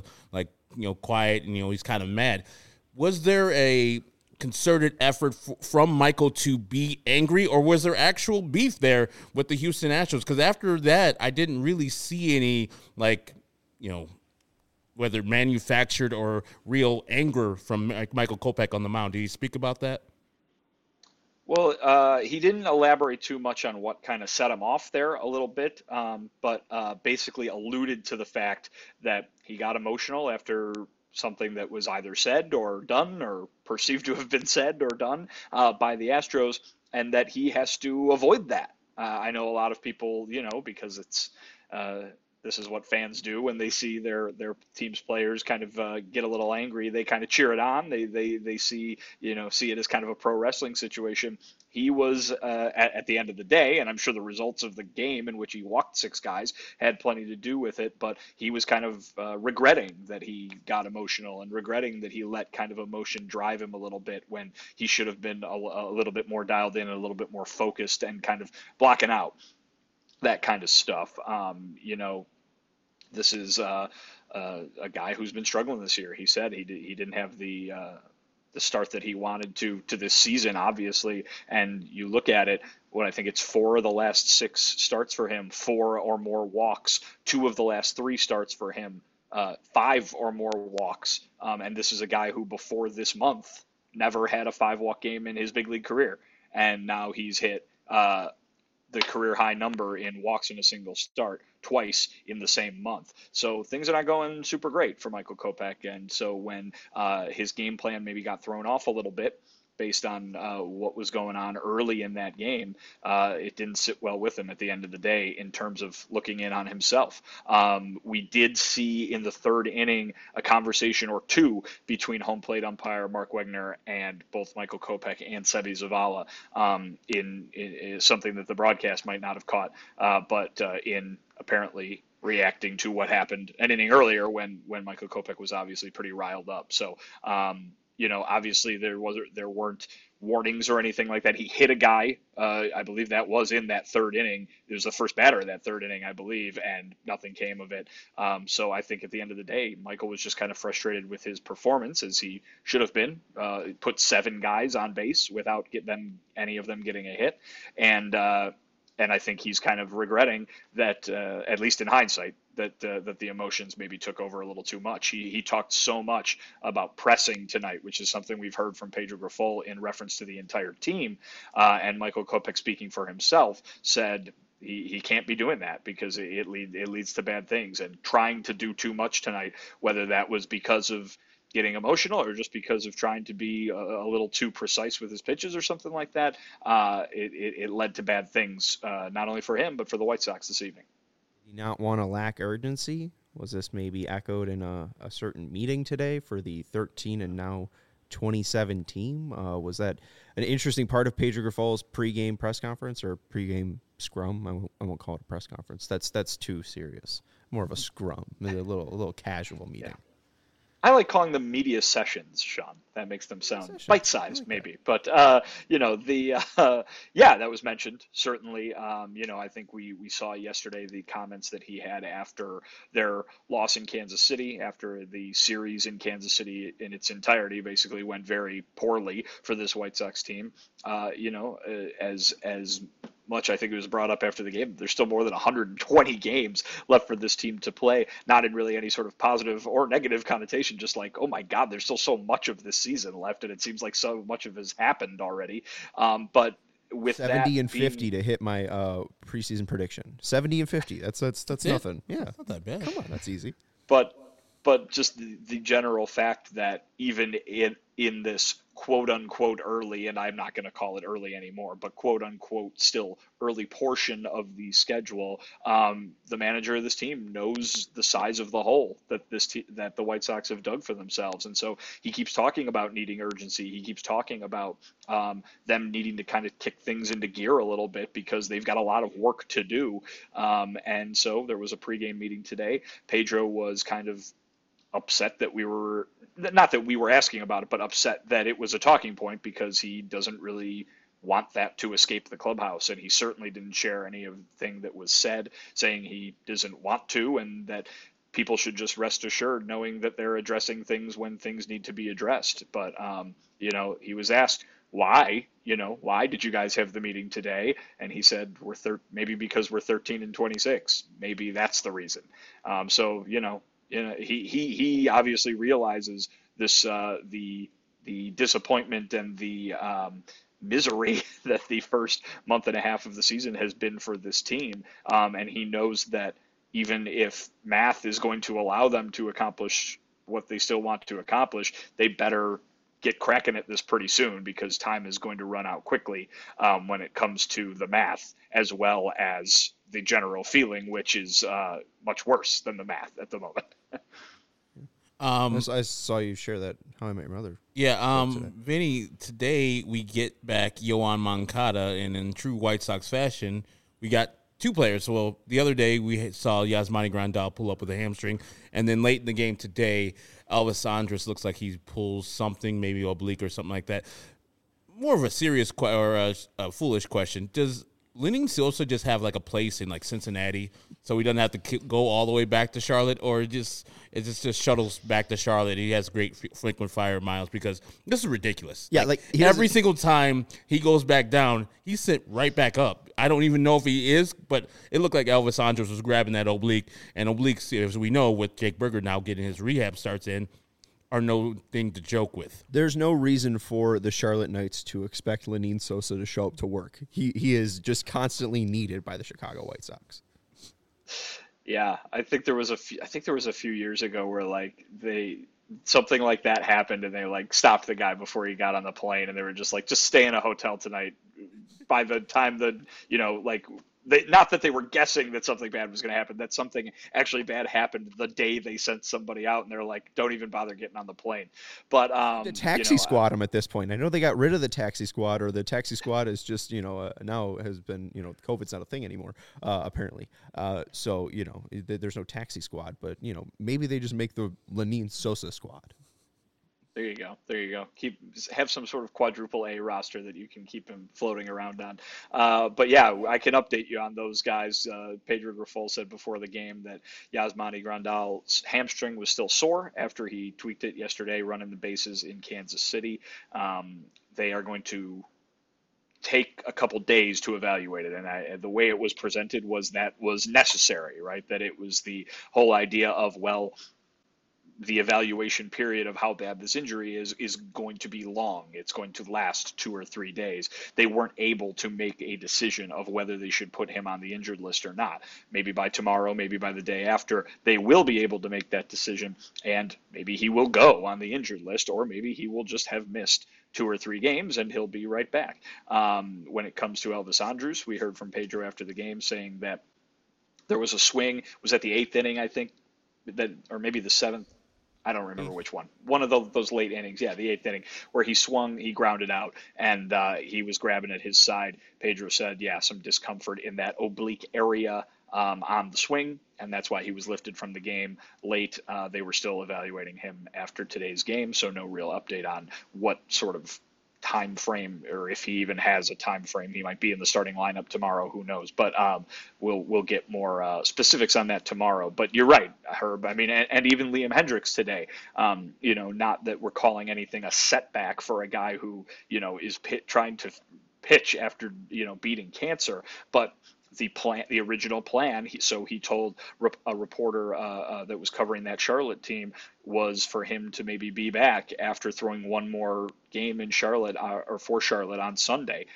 B: quiet, and he's kind of mad. Was there a concerted effort from Michael to be angry, or was there actual beef there with the Houston Astros? Because after that, I didn't really see any, whether manufactured or real anger from Michael Kopech on the mound. Did he speak about that?
I: Well, he didn't elaborate too much on what kind of set him off there a little bit, but basically alluded to the fact that he got emotional after something that was either said or done or perceived to have been said or done by the Astros, and that he has to avoid that. I know a lot of people, because it's this is what fans do when they see their team's players kind of get a little angry. They kind of cheer it on. They see it as kind of a pro wrestling situation. He was at the end of the day, and I'm sure the results of the game in which he walked 6 guys had plenty to do with it, but he was kind of regretting that he got emotional and regretting that he let kind of emotion drive him a little bit when he should have been a little bit more dialed in and a little bit more focused and kind of blocking out that kind of stuff. This is a guy who's been struggling this year. He said he didn't have the start that he wanted to this season, obviously. And you look at it, I think it's 4 of the last 6 starts for him, 4 or more walks, 2 of the last 3 starts for him, 5 or more walks. And this is a guy who before this month never had a 5-walk game in his big league career. And now he's hit the career high number in walks in a single start twice in the same month. So things are not going super great for Michael Kopech. And so when his game plan maybe got thrown off a little bit based on what was going on early in that game, it didn't sit well with him at the end of the day in terms of looking in on himself. We did see in the third inning a conversation or two between home plate umpire Mark Wegner and both Michael Kopech and Seby Zavala in something that the broadcast might not have caught, but in apparently reacting to what happened an inning earlier when Michael Kopech was obviously pretty riled up. So, obviously there weren't warnings or anything like that. He hit a guy. I believe that was in that third inning. It was the first batter of that third inning, I believe, and nothing came of it. So I think at the end of the day, Michael was just kind of frustrated with his performance, as he should have been. Put 7 guys on base without any of them getting a hit. And I think he's kind of regretting that, at least in hindsight, that the emotions maybe took over a little too much. He talked so much about pressing tonight, which is something we've heard from Pedro Grifol in reference to the entire team. And Michael Kopech, speaking for himself, said he can't be doing that because it leads to bad things. And trying to do too much tonight, whether that was because of getting emotional or just because of trying to be a little too precise with his pitches or something like that, it led to bad things, not only for him, but for the White Sox this evening.
A: Did he not want to lack urgency? Was this maybe echoed in a certain meeting today for the 13 and now 27 team? Was that an interesting part of Pedro Grifol's pregame press conference or pregame scrum? I won't call it a press conference. That's too serious. More of a scrum, a little casual meeting.
I: Yeah. I like calling them media sessions, Sean. That makes them sound bite-sized, like maybe. But, that was mentioned, certainly. I think we saw yesterday the comments that he had after their loss in Kansas City, after the series in Kansas City in its entirety basically went very poorly for this White Sox team. As much I think it was brought up after the game, there's still more than 120 games left for this team to play, not in really any sort of positive or negative connotation, just like, oh my God, there's still so much of this season left, and it seems like so much of it has happened already. But with
A: 70 and 50 to hit my preseason prediction. 70 and 50. That's nothing. Yeah,
B: not that bad.
A: Come on, that's easy.
I: But just the general fact that even in this quote unquote early, and I'm not going to call it early anymore, but quote unquote still early portion of the schedule, the manager of this team knows the size of the hole that that the White Sox have dug for themselves, and so he keeps talking about needing urgency. He keeps talking about them needing to kind of kick things into gear a little bit because they've got a lot of work to do. And so there was a pregame meeting today. Pedro was kind of upset that we were asking about it, but upset that it was a talking point because he doesn't really want that to escape the clubhouse. And he certainly didn't share any of the thing that was said, saying he doesn't want to, and that people should just rest assured knowing that they're addressing things when things need to be addressed. But, he was asked, why did you guys have the meeting today? And he said, maybe because we're 13 and 26. Maybe that's the reason. He obviously realizes this the disappointment and the misery that the first month and a half of the season has been for this team, and he knows that even if math is going to allow them to accomplish what they still want to accomplish, they better get cracking at this pretty soon because time is going to run out quickly when it comes to the math as well as the general feeling, which is much worse than the math at the moment.
A: I saw you share that How I Met Your Mother.
B: Yeah, Vinny, today we get back Yoan Moncada, and in true White Sox fashion, we got two players. Well, the other day we saw Yasmani Grandal pull up with a hamstring, and then late in the game today, Elvis Andrus looks like he pulls something, maybe oblique or something like that. More of a serious or a foolish question. Does Lenyn Sosa just have like a place in like Cincinnati so he doesn't have to go all the way back to Charlotte, or it just shuttles back to Charlotte? He has great frequent flyer miles because this is ridiculous.
A: Yeah, like
B: every single time he goes back down, he's sent right back up. I don't even know if he is, but it looked like Elvis Andrus was grabbing that oblique, and obliques, as we know, with Jake Burger now getting his rehab starts in, are no thing to joke with.
A: There's no reason for the Charlotte Knights to expect Lenyn Sosa to show up to work. He is just constantly needed by the Chicago White Sox.
I: Yeah, I think there was a few years ago where like something like that happened and they like stopped the guy before he got on the plane, and they were just like, just stay in a hotel tonight. By the time not that they were guessing that something bad was going to happen, that something actually bad happened the day they sent somebody out, and they're like, don't even bother getting on the plane. But
A: the taxi squad them at this point. I know they got rid of the taxi squad, or the taxi squad is just now has been COVID's not a thing anymore apparently. So there's no taxi squad, but maybe they just make the Lenyn Sosa squad.
I: There you go. Have some sort of quadruple A roster that you can keep him floating around on. But yeah, I can update you on those guys. Pedro Grifol said before the game that Yasmani Grandal's hamstring was still sore after he tweaked it yesterday running the bases in Kansas City. They are going to take a couple days to evaluate it, and the way it was presented was that was necessary, right? That it was the whole idea of, well, the evaluation period of how bad this injury is going to be long. It's going to last 2 or 3 days. They weren't able to make a decision of whether they should put him on the injured list or not. Maybe by tomorrow, maybe by the day after, they will be able to make that decision, and maybe he will go on the injured list, or maybe he will just have missed 2 or 3 games and he'll be right back. When it comes to Elvis Andrus, we heard from Pedro after the game saying that there was a swing, was at the 8th inning, I think, that, or maybe the 7th. I don't remember which one. One of those late innings, the 8th inning, where he swung, he grounded out, and he was grabbing at his side. Pedro said, some discomfort in that oblique area on the swing, and that's why he was lifted from the game late. They were still evaluating him after today's game, so no real update on what sort of time frame, or if he even has a time frame. He might be in the starting lineup tomorrow, who knows, but we'll get more specifics on that tomorrow. But you're right, Herb. I mean, and even Liam Hendriks today, not that we're calling anything a setback for a guy who is trying to pitch after beating cancer, but the original plan, he told a reporter that was covering that Charlotte team, was for him to maybe be back after throwing one more game in Charlotte or for Charlotte on Sunday.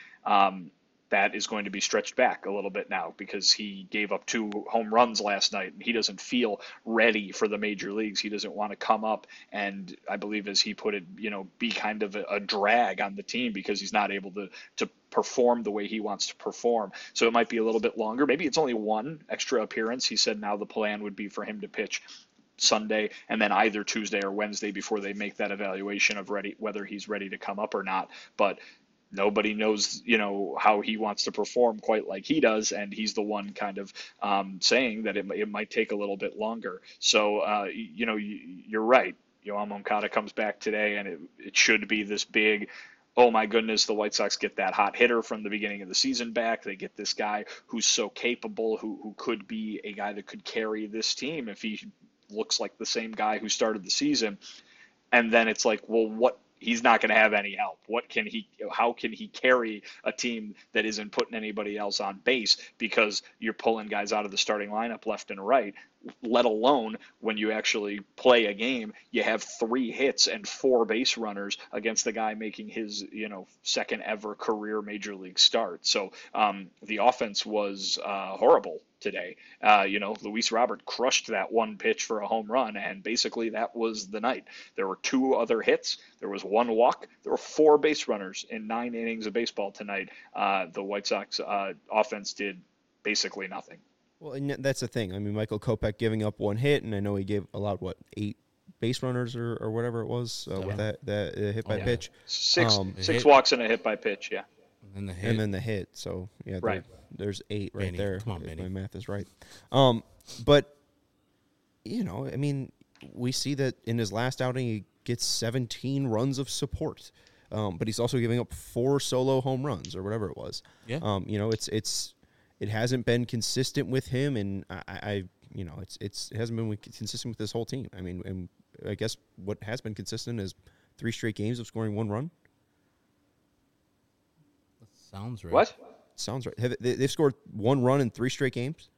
I: That is going to be stretched back a little bit now because he gave up 2 home runs last night, and he doesn't feel ready for the major leagues. He doesn't want to come up and, I believe as he put it, be kind of a drag on the team because he's not able to perform the way he wants to perform. So it might be a little bit longer. Maybe it's only 1 extra appearance. He said now the plan would be for him to pitch Sunday and then either Tuesday or Wednesday before they make that evaluation of whether he's ready to come up or not. But nobody knows, how he wants to perform quite like he does, and he's the one kind of saying that it might take a little bit longer. So, you're right. Yoan Moncada comes back today, and it should be this big, oh my goodness, the White Sox get that hot hitter from the beginning of the season back. They get this guy who's so capable, who could be a guy that could carry this team if he looks like the same guy who started the season. And then it's like, well, he's not going to have any help. How can he carry a team that isn't putting anybody else on base because you're pulling guys out of the starting lineup left and right, let alone when you actually play a game, you have 3 hits and 4 base runners against the guy making his, second ever career major league start. So the offense was horrible today. Luis Robert crushed that 1 pitch for a home run, and basically that was the night. There were 2 other hits. There was 1 walk. There were 4 base runners in 9 innings of baseball tonight. The White Sox offense did basically nothing.
A: Well, and that's the thing. I mean, Michael Kopech giving up 1 hit, and I know he allowed 8 base runners or whatever it was with that hit by pitch.
I: 6 walks and a hit by pitch, yeah.
B: And the hit.
A: And then the hit. So, yeah,
I: right.
A: There's 8 right there.
B: Come on, Benny.
A: My math is right. But, I mean, we see that in his last outing, he gets 17 runs of support. But he's also giving up 4 solo home runs or whatever it was.
B: Yeah.
A: It hasn't been consistent with him, and it hasn't been consistent with this whole team. I mean, and I guess what has been consistent is 3 straight games of scoring 1 run.
B: That sounds right.
I: What?
A: Sounds right. They've scored 1 run in 3 straight games?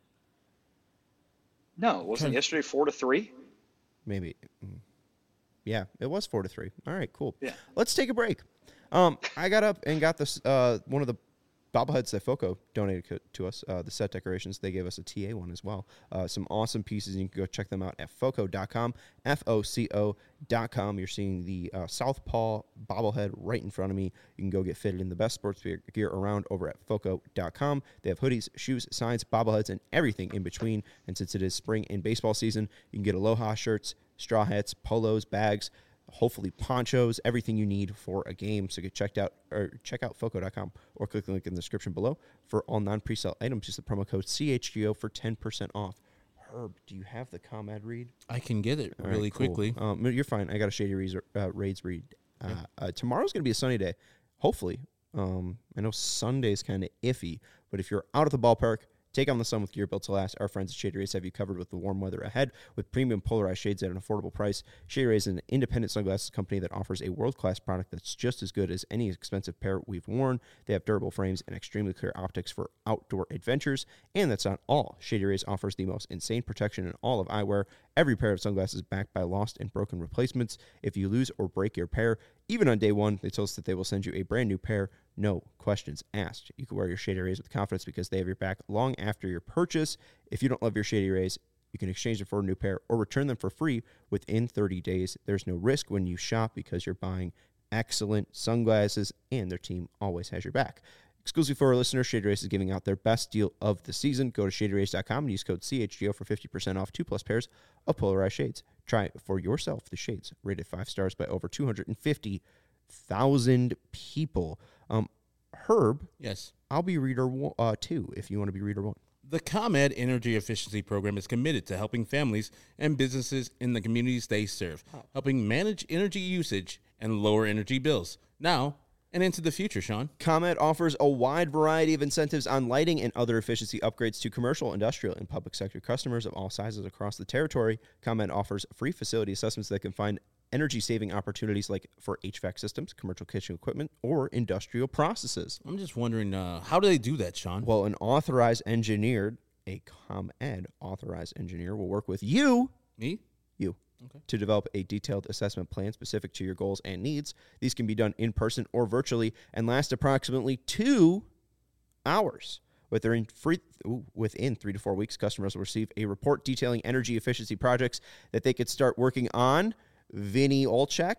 I: No, wasn't yesterday 4-3?
A: Maybe. Yeah, it was 4-3. All right, cool.
I: Yeah.
A: Let's take a break. I got up and got this one of the bobbleheads that Foco donated to us, the set decorations. They gave us a TA one as well. Some awesome pieces. You can go check them out at foco.com, FOCO.com. You're seeing the Southpaw bobblehead right in front of me. You can go get fitted in the best sports gear around over at foco.com. They have hoodies, shoes, signs, bobbleheads, and everything in between. And since it is spring and baseball season, you can get Aloha shirts, straw hats, polos, bags, hopefully ponchos, everything you need for a game. So get check out foco.com or click the link in the description below for all non-presale items. Use the promo code CHGO for 10% off. Herb, do you have the ComEd read?
B: I can get it really quickly.
A: You're fine. I got a Shady Raids read. Tomorrow's going to be a sunny day, hopefully. I know Sunday's kind of iffy, but if you're out at the ballpark, Take on the sun with gear built to last. Our friends at Shady Rays have you covered with the warm weather ahead with premium polarized shades at an affordable price. Shady Rays is an independent sunglasses company that offers a world-class product that's just as good as any expensive pair we've worn. They have durable frames and extremely clear optics for outdoor adventures. And that's not all. Shady Rays offers the most insane protection in all of eyewear. Every pair of sunglasses is backed by lost and broken replacements. If you lose or break your pair, even on day one, they tell us that they will send you a brand new pair. No questions asked. You can wear your Shady Rays with confidence because they have your back long after your purchase. If you don't love your Shady Rays, you can exchange them for a new pair or return them for free within 30 days. There's no risk when you shop because you're buying excellent sunglasses, and their team always has your back. Exclusively for our listeners, Shady Rays is giving out their best deal of the season. Go to shadyrays.com and use code CHGO for 50% off 2+ pairs of polarized shades. Try it for yourself. The shades rated 5 stars by over 250,000 people. Herb,
B: yes,
A: I'll be reader 2 if you want to be reader 1.
B: The ComEd Energy Efficiency Program is committed to helping families and businesses in the communities they serve, helping manage energy usage and lower energy bills now and into the future, Sean.
A: ComEd offers a wide variety of incentives on lighting and other efficiency upgrades to commercial, industrial, and public sector customers of all sizes across the territory. ComEd offers free facility assessments that can find energy-saving opportunities like for HVAC systems, commercial kitchen equipment, or industrial processes.
B: I'm just wondering, how do they do that, Sean?
A: Well, a ComEd authorized engineer will work with you.
B: Me?
A: You.
B: Okay.
A: To develop a detailed assessment plan specific to your goals and needs. These can be done in person or virtually and last approximately 2 hours. Within 3 to 4 weeks, customers will receive a report detailing energy efficiency projects that they could start working on. Vinny Olchek?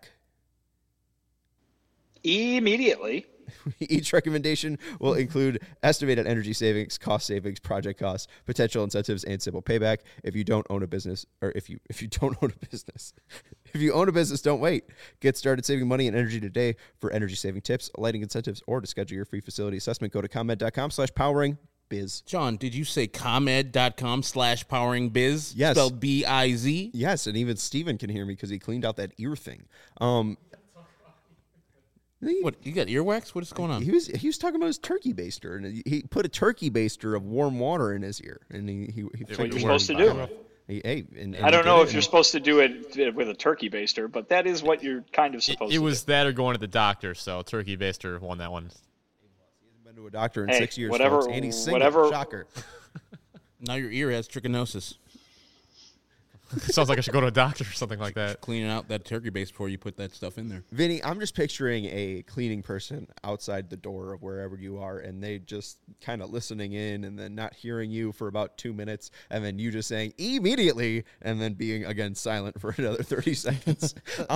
I: Immediately.
A: Each recommendation will include estimated energy savings, cost savings, project costs, potential incentives, and simple payback. If you don't own a business, if you own a business, don't wait. Get started saving money and energy today. For energy saving tips, lighting incentives, or to schedule your free facility assessment, go to ComEd.com/powering biz.
B: John, did you say ComEd.com/powering biz?
A: Yes.
B: Spelled B-I-Z?
A: Yes, and even Steven can hear me because he cleaned out that ear thing.
B: What, you got earwax? What is going on?
A: He was talking about his turkey baster, and he put a turkey baster of warm water in his ear, and he
I: That's what you're supposed to do.
A: And
I: I don't know if you're supposed to do it with a turkey baster, but that is what you're kind of supposed to do.
C: It was that or going to the doctor, so turkey baster won that one.
A: He hasn't been to a doctor in 6 years,
I: whatever,
A: folks, and he's single. Shocker.
B: Now your ear has trichinosis.
C: Sounds like I should go to a doctor or something like that.
B: Cleaning out that turkey base before you put that stuff in there.
A: Vinny, I'm just picturing a cleaning person outside the door of wherever you are, and they just kind of listening in and then not hearing you for about 2 minutes, and then you just saying immediately, and then being again silent for another 30 seconds.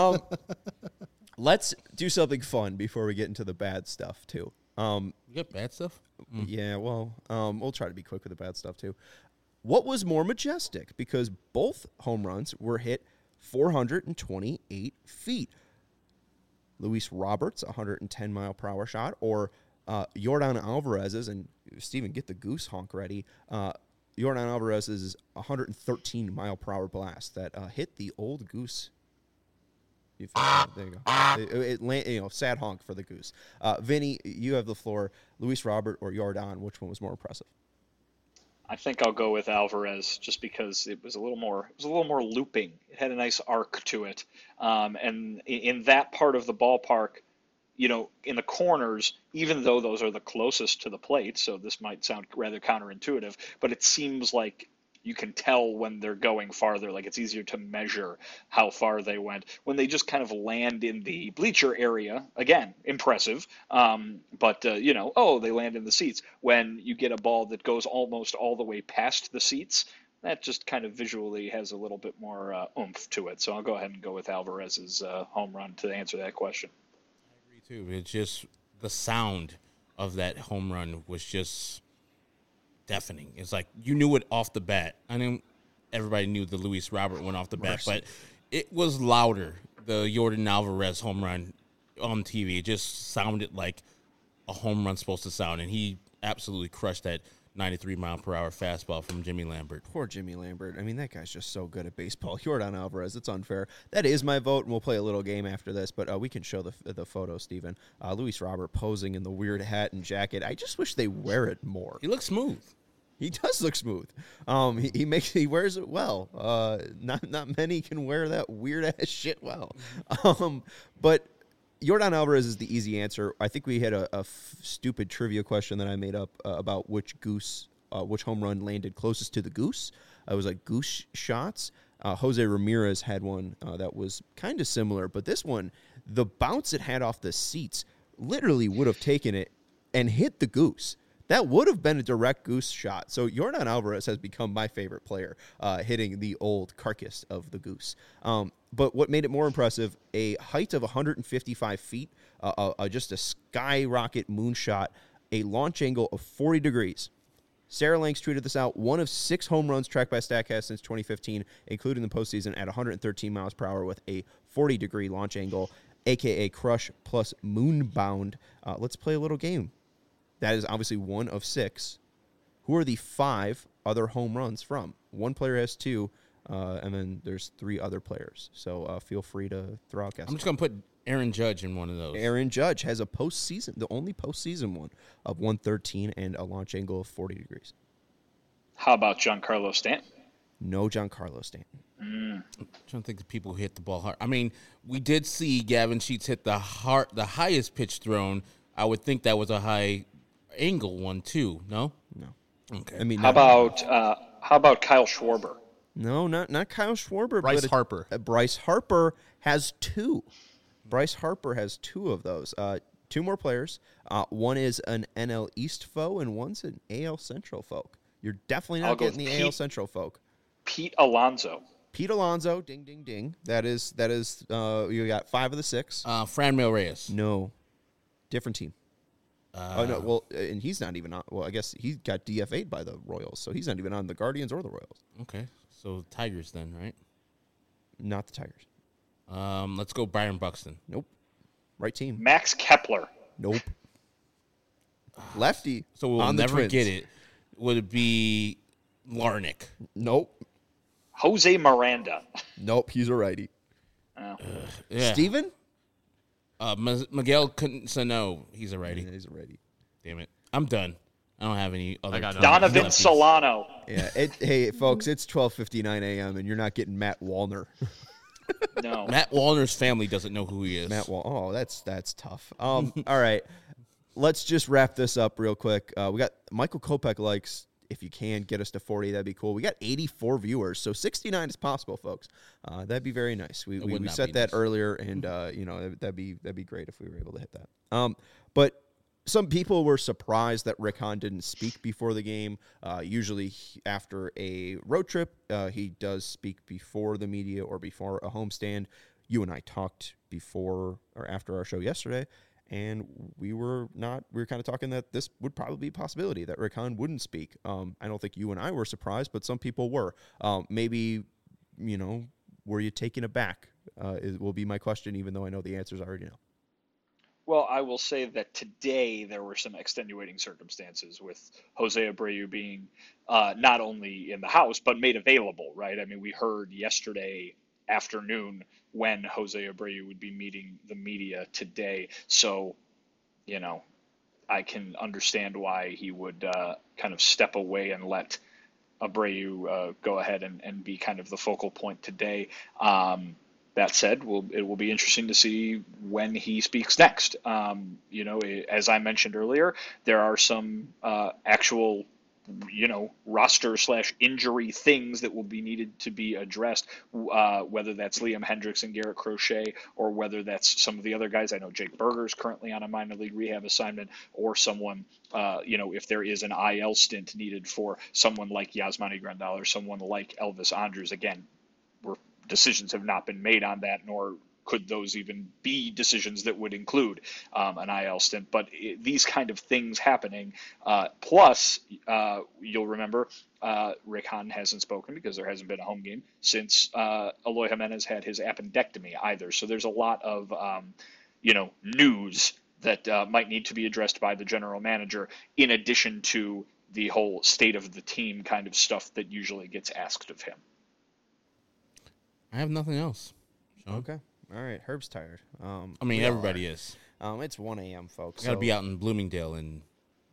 A: Let's do something fun before we get into the bad stuff too.
B: You got bad stuff?
A: Yeah, well, we'll try to be quick with the bad stuff too. What was more majestic? Because both home runs were hit 428 feet. Luis Roberts, 110-mile-per-hour shot, or Yordan Alvarez's, and Steven, get the goose honk ready, Yordan Alvarez's 113-mile-per-hour blast that hit the old goose. There you go. Sad honk for the goose. Vinny, you have the floor. Luis Robert or Yordan, which one was more impressive?
I: I think I'll go with Alvarez just because it was a little more looping. It had a nice arc to it. And in that part of the ballpark, in the corners, even though those are the closest to the plate, so this might sound rather counterintuitive, but it seems like you can tell when they're going farther, like it's easier to measure how far they went. When they just kind of land in the bleacher area, again, impressive. But they land in the seats. When you get a ball that goes almost all the way past the seats, that just kind of visually has a little bit more oomph to it. So I'll go ahead and go with Alvarez's home run to answer that question.
B: I agree, too. It's just the sound of that home run was just deafening. It's like you knew it off the bat. I mean, everybody knew the Luis Robert went off the bat, but it was louder. The Yordan Alvarez home run on TV, it just sounded like a home run's supposed to sound, and he absolutely crushed that 93-mile-per-hour fastball from Jimmy Lambert.
A: Poor Jimmy Lambert. I mean, that guy's just so good at baseball. Yordan Alvarez, it's unfair. That is my vote, and we'll play a little game after this, but we can show the photo, Steven. Luis Robert posing in the weird hat and jacket. I just wish they wear it more.
B: He looks smooth.
A: He does look smooth. He wears it well. Not many can wear that weird ass shit well. But Yordan Alvarez is the easy answer. I think we had a stupid trivia question that I made up about which home run landed closest to the goose. It was like goose shots. Jose Ramirez had one that was kind of similar, but this one, the bounce it had off the seats literally would have taken it and hit the goose. That would have been a direct goose shot. So Yordan Alvarez has become my favorite player, hitting the old carcass of the goose. But what made it more impressive, a height of 155 feet, just a skyrocket moonshot, a launch angle of 40 degrees. Sarah Lanks tweeted this out. 1 of 6 home runs tracked by StatCast since 2015, including the postseason at 113 miles per hour with a 40-degree launch angle, a.k.a. crush plus moonbound. Let's play a little game. That is obviously 1 of 6. Who are the 5 other home runs from? One player has 2, and then there's 3 other players. So feel free to throw out guesses.
B: I'm just going to put Aaron Judge in one of those.
A: Aaron Judge has a postseason, the only postseason one, of 113 and a launch angle of 40 degrees.
I: How about Giancarlo Stanton?
A: No Giancarlo Stanton.
B: I'm trying to think of people who hit the ball hard. I mean, we did see Gavin Sheets hit the highest pitch thrown. I would think that was a high angle one too. No. Okay.
A: I mean,
I: how about Kyle Schwarber?
A: No, not Kyle Schwarber.
J: Bryce Harper.
A: Bryce Harper has 2. Bryce Harper has 2 of those. 2 more players. One is an NL East foe, and one's an AL Central folk. You're definitely not getting the AL Central folk.
I: Pete Alonso.
A: Pete Alonso, ding, ding, ding. That is. You got 5 of the 6.
B: Franmil Reyes.
A: No, different team. No, well, and he's not even on. Well, I guess he got DFA'd by the Royals, so he's not even on the Guardians or the Royals.
B: Okay, so Tigers then, right?
A: Not the Tigers.
B: Let's go Byron Buxton.
A: Nope. Right team.
I: Max Kepler.
A: Nope. Lefty.
B: So we'll never get it. Would it be Larnick?
A: Nope.
I: Jose Miranda.
A: Nope, he's a righty.
B: Yeah.
A: Steven?
B: Miguel Cano. He's a righty.
A: Yeah, he's a righty.
B: Damn it. I'm done. I don't have any other.
I: Donovan Solano.
A: Yeah. Hey, folks, it's 12:59 a.m. and you're not getting Matt Wallner.
I: No.
B: Matt Wallner's family doesn't know who he is.
A: Oh, that's tough. All right. Let's just wrap this up real quick. We got Michael Kopech likes, if you can get us to 40, that'd be cool. We got 84 viewers, so 69 is possible, folks. That'd be very nice. We set that earlier, and that'd be great if we were able to hit that. But some people were surprised that Rick Hahn didn't speak before the game. Usually after a road trip, he does speak before the media or before a homestand. You and I talked before or after our show yesterday, and we were kind of talking that this would probably be a possibility that Rick Hahn wouldn't speak. I don't think you and I were surprised, but some people were. Maybe, were you taken aback? Will be my question, even though I know the answers already know.
I: Well, I will say that today there were some extenuating circumstances with Jose Abreu being not only in the house, but made available, right? I mean, we heard yesterday afternoon when Jose Abreu would be meeting the media today. So, I can understand why he would kind of step away and let Abreu go ahead and be kind of the focal point today. That said, it will be interesting to see when he speaks next. As I mentioned earlier, there are some actual, roster/injury things that will be needed to be addressed, whether that's Liam Hendriks and Garrett Crochet, or whether that's some of the other guys. I know Jake Berger's currently on a minor league rehab assignment, or someone, if there is an IL stint needed for someone like Yasmani Grandal or someone like Elvis Andrus. Again, decisions have not been made on that, nor could those even be decisions that would include an IL stint. But these kind of things happening, plus you'll remember Rick Hahn hasn't spoken because there hasn't been a home game since Eloy Jimenez had his appendectomy either. So there's a lot of news that might need to be addressed by the general manager, in addition to the whole state of the team kind of stuff that usually gets asked of him.
B: I have nothing else. Sean.
A: Okay. All right. Herb's tired.
B: Everybody is.
A: It's 1 a.m., folks.
B: I got to be out in Bloomingdale in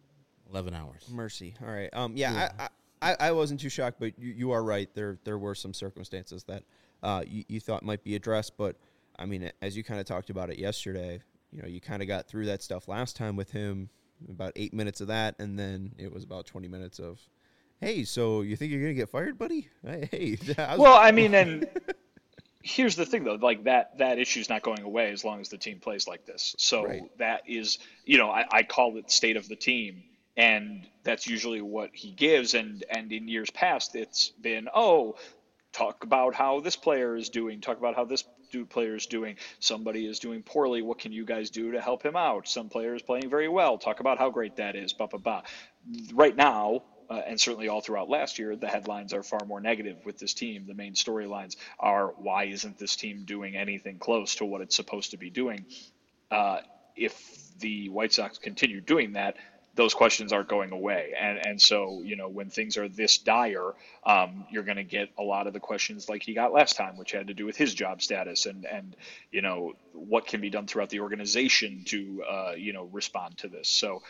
B: 11 hours.
A: Mercy. All right. I wasn't too shocked, but you are right. There were some circumstances that you thought might be addressed, but I mean, as you kind of talked about it yesterday, you kind of got through that stuff last time with him, about 8 minutes of that, and then it was about 20 minutes of, hey, so you think you're going to get fired, buddy? Hey.
I: Well, I mean, and here's the thing, though, like that issue's not going away as long as the team plays like this. So that is, I call it state of the team, and that's usually what he gives. And in years past, it's been, talk about how this player is doing, talk about how this player is doing. Somebody is doing poorly. What can you guys do to help him out? Some player is playing very well. Talk about how great that is. Right now, and certainly all throughout last year, the headlines are far more negative with this team. The main storylines are, why isn't this team doing anything close to what it's supposed to be doing? If the White Sox continue doing that, those questions aren't going away. And so, when things are this dire, you're going to get a lot of the questions like he got last time, which had to do with his job status and what can be done throughout the organization to, respond to this. So,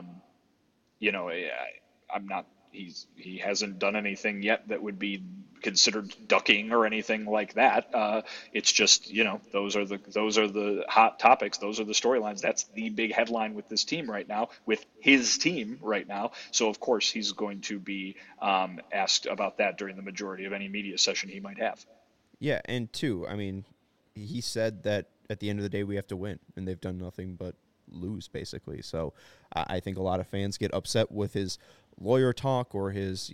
I: he hasn't done anything yet that would be considered ducking or anything like that. It's just, those are the hot topics. Those are the storylines. That's the big headline with this team right now, with his team right now. So of course he's going to be asked about that during the majority of any media session he might have.
A: Yeah. And two, I mean, he said that at the end of the day, we have to win, and they've done nothing but lose basically. So I think a lot of fans get upset with his lawyer talk or his,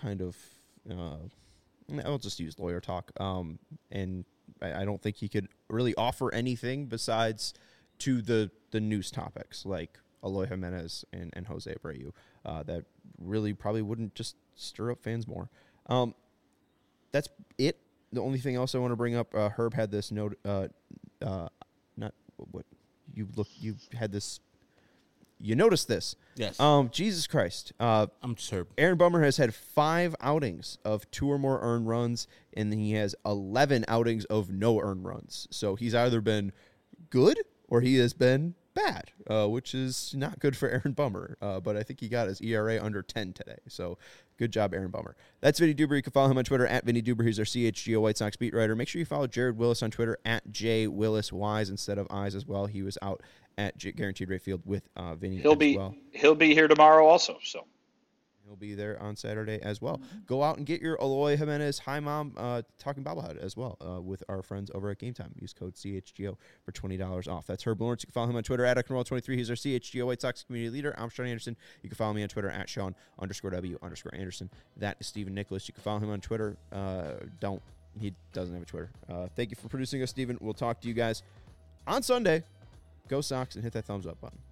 A: I'll just use lawyer talk. And I don't think he could really offer anything besides to the news topics like Eloy Jimenez and Jose Abreu that really probably wouldn't just stir up fans more. That's it. The only thing else I want to bring up, Herb had this note, you noticed this.
B: Yes.
A: Jesus Christ.
B: I'm sure.
A: Aaron Bummer has had 5 outings of 2 or more earned runs, and he has 11 outings of no earned runs. So he's either been good or he has been bad, which is not good for Aaron Bummer. But I think he got his ERA under 10 today. So good job, Aaron Bummer. That's Vinny Duber. You can follow him on Twitter at Vinny Duber. He's our CHGO White Sox beat writer. Make sure you follow Jared Willis on Twitter at JWillisWise instead of I's as well. He was out at Guaranteed Rate Field with Vinny
I: He'll be here tomorrow also, so.
A: He'll be there on Saturday as well. Go out and get your Eloy Jimenez Hi Mom Talking Bobblehead as well with our friends over at Game Time. Use code CHGO for $20 off. That's Herb Lawrence. You can follow him on Twitter at Ecknerwall23. He's our CHGO White Sox community leader. I'm Sean Anderson. You can follow me on Twitter at Sean_W_Anderson. That is Stephen Nicholas. You can follow him on Twitter. He doesn't have a Twitter. Thank you for producing us, Stephen. We'll talk to you guys on Sunday. Go Sox and hit that thumbs up button.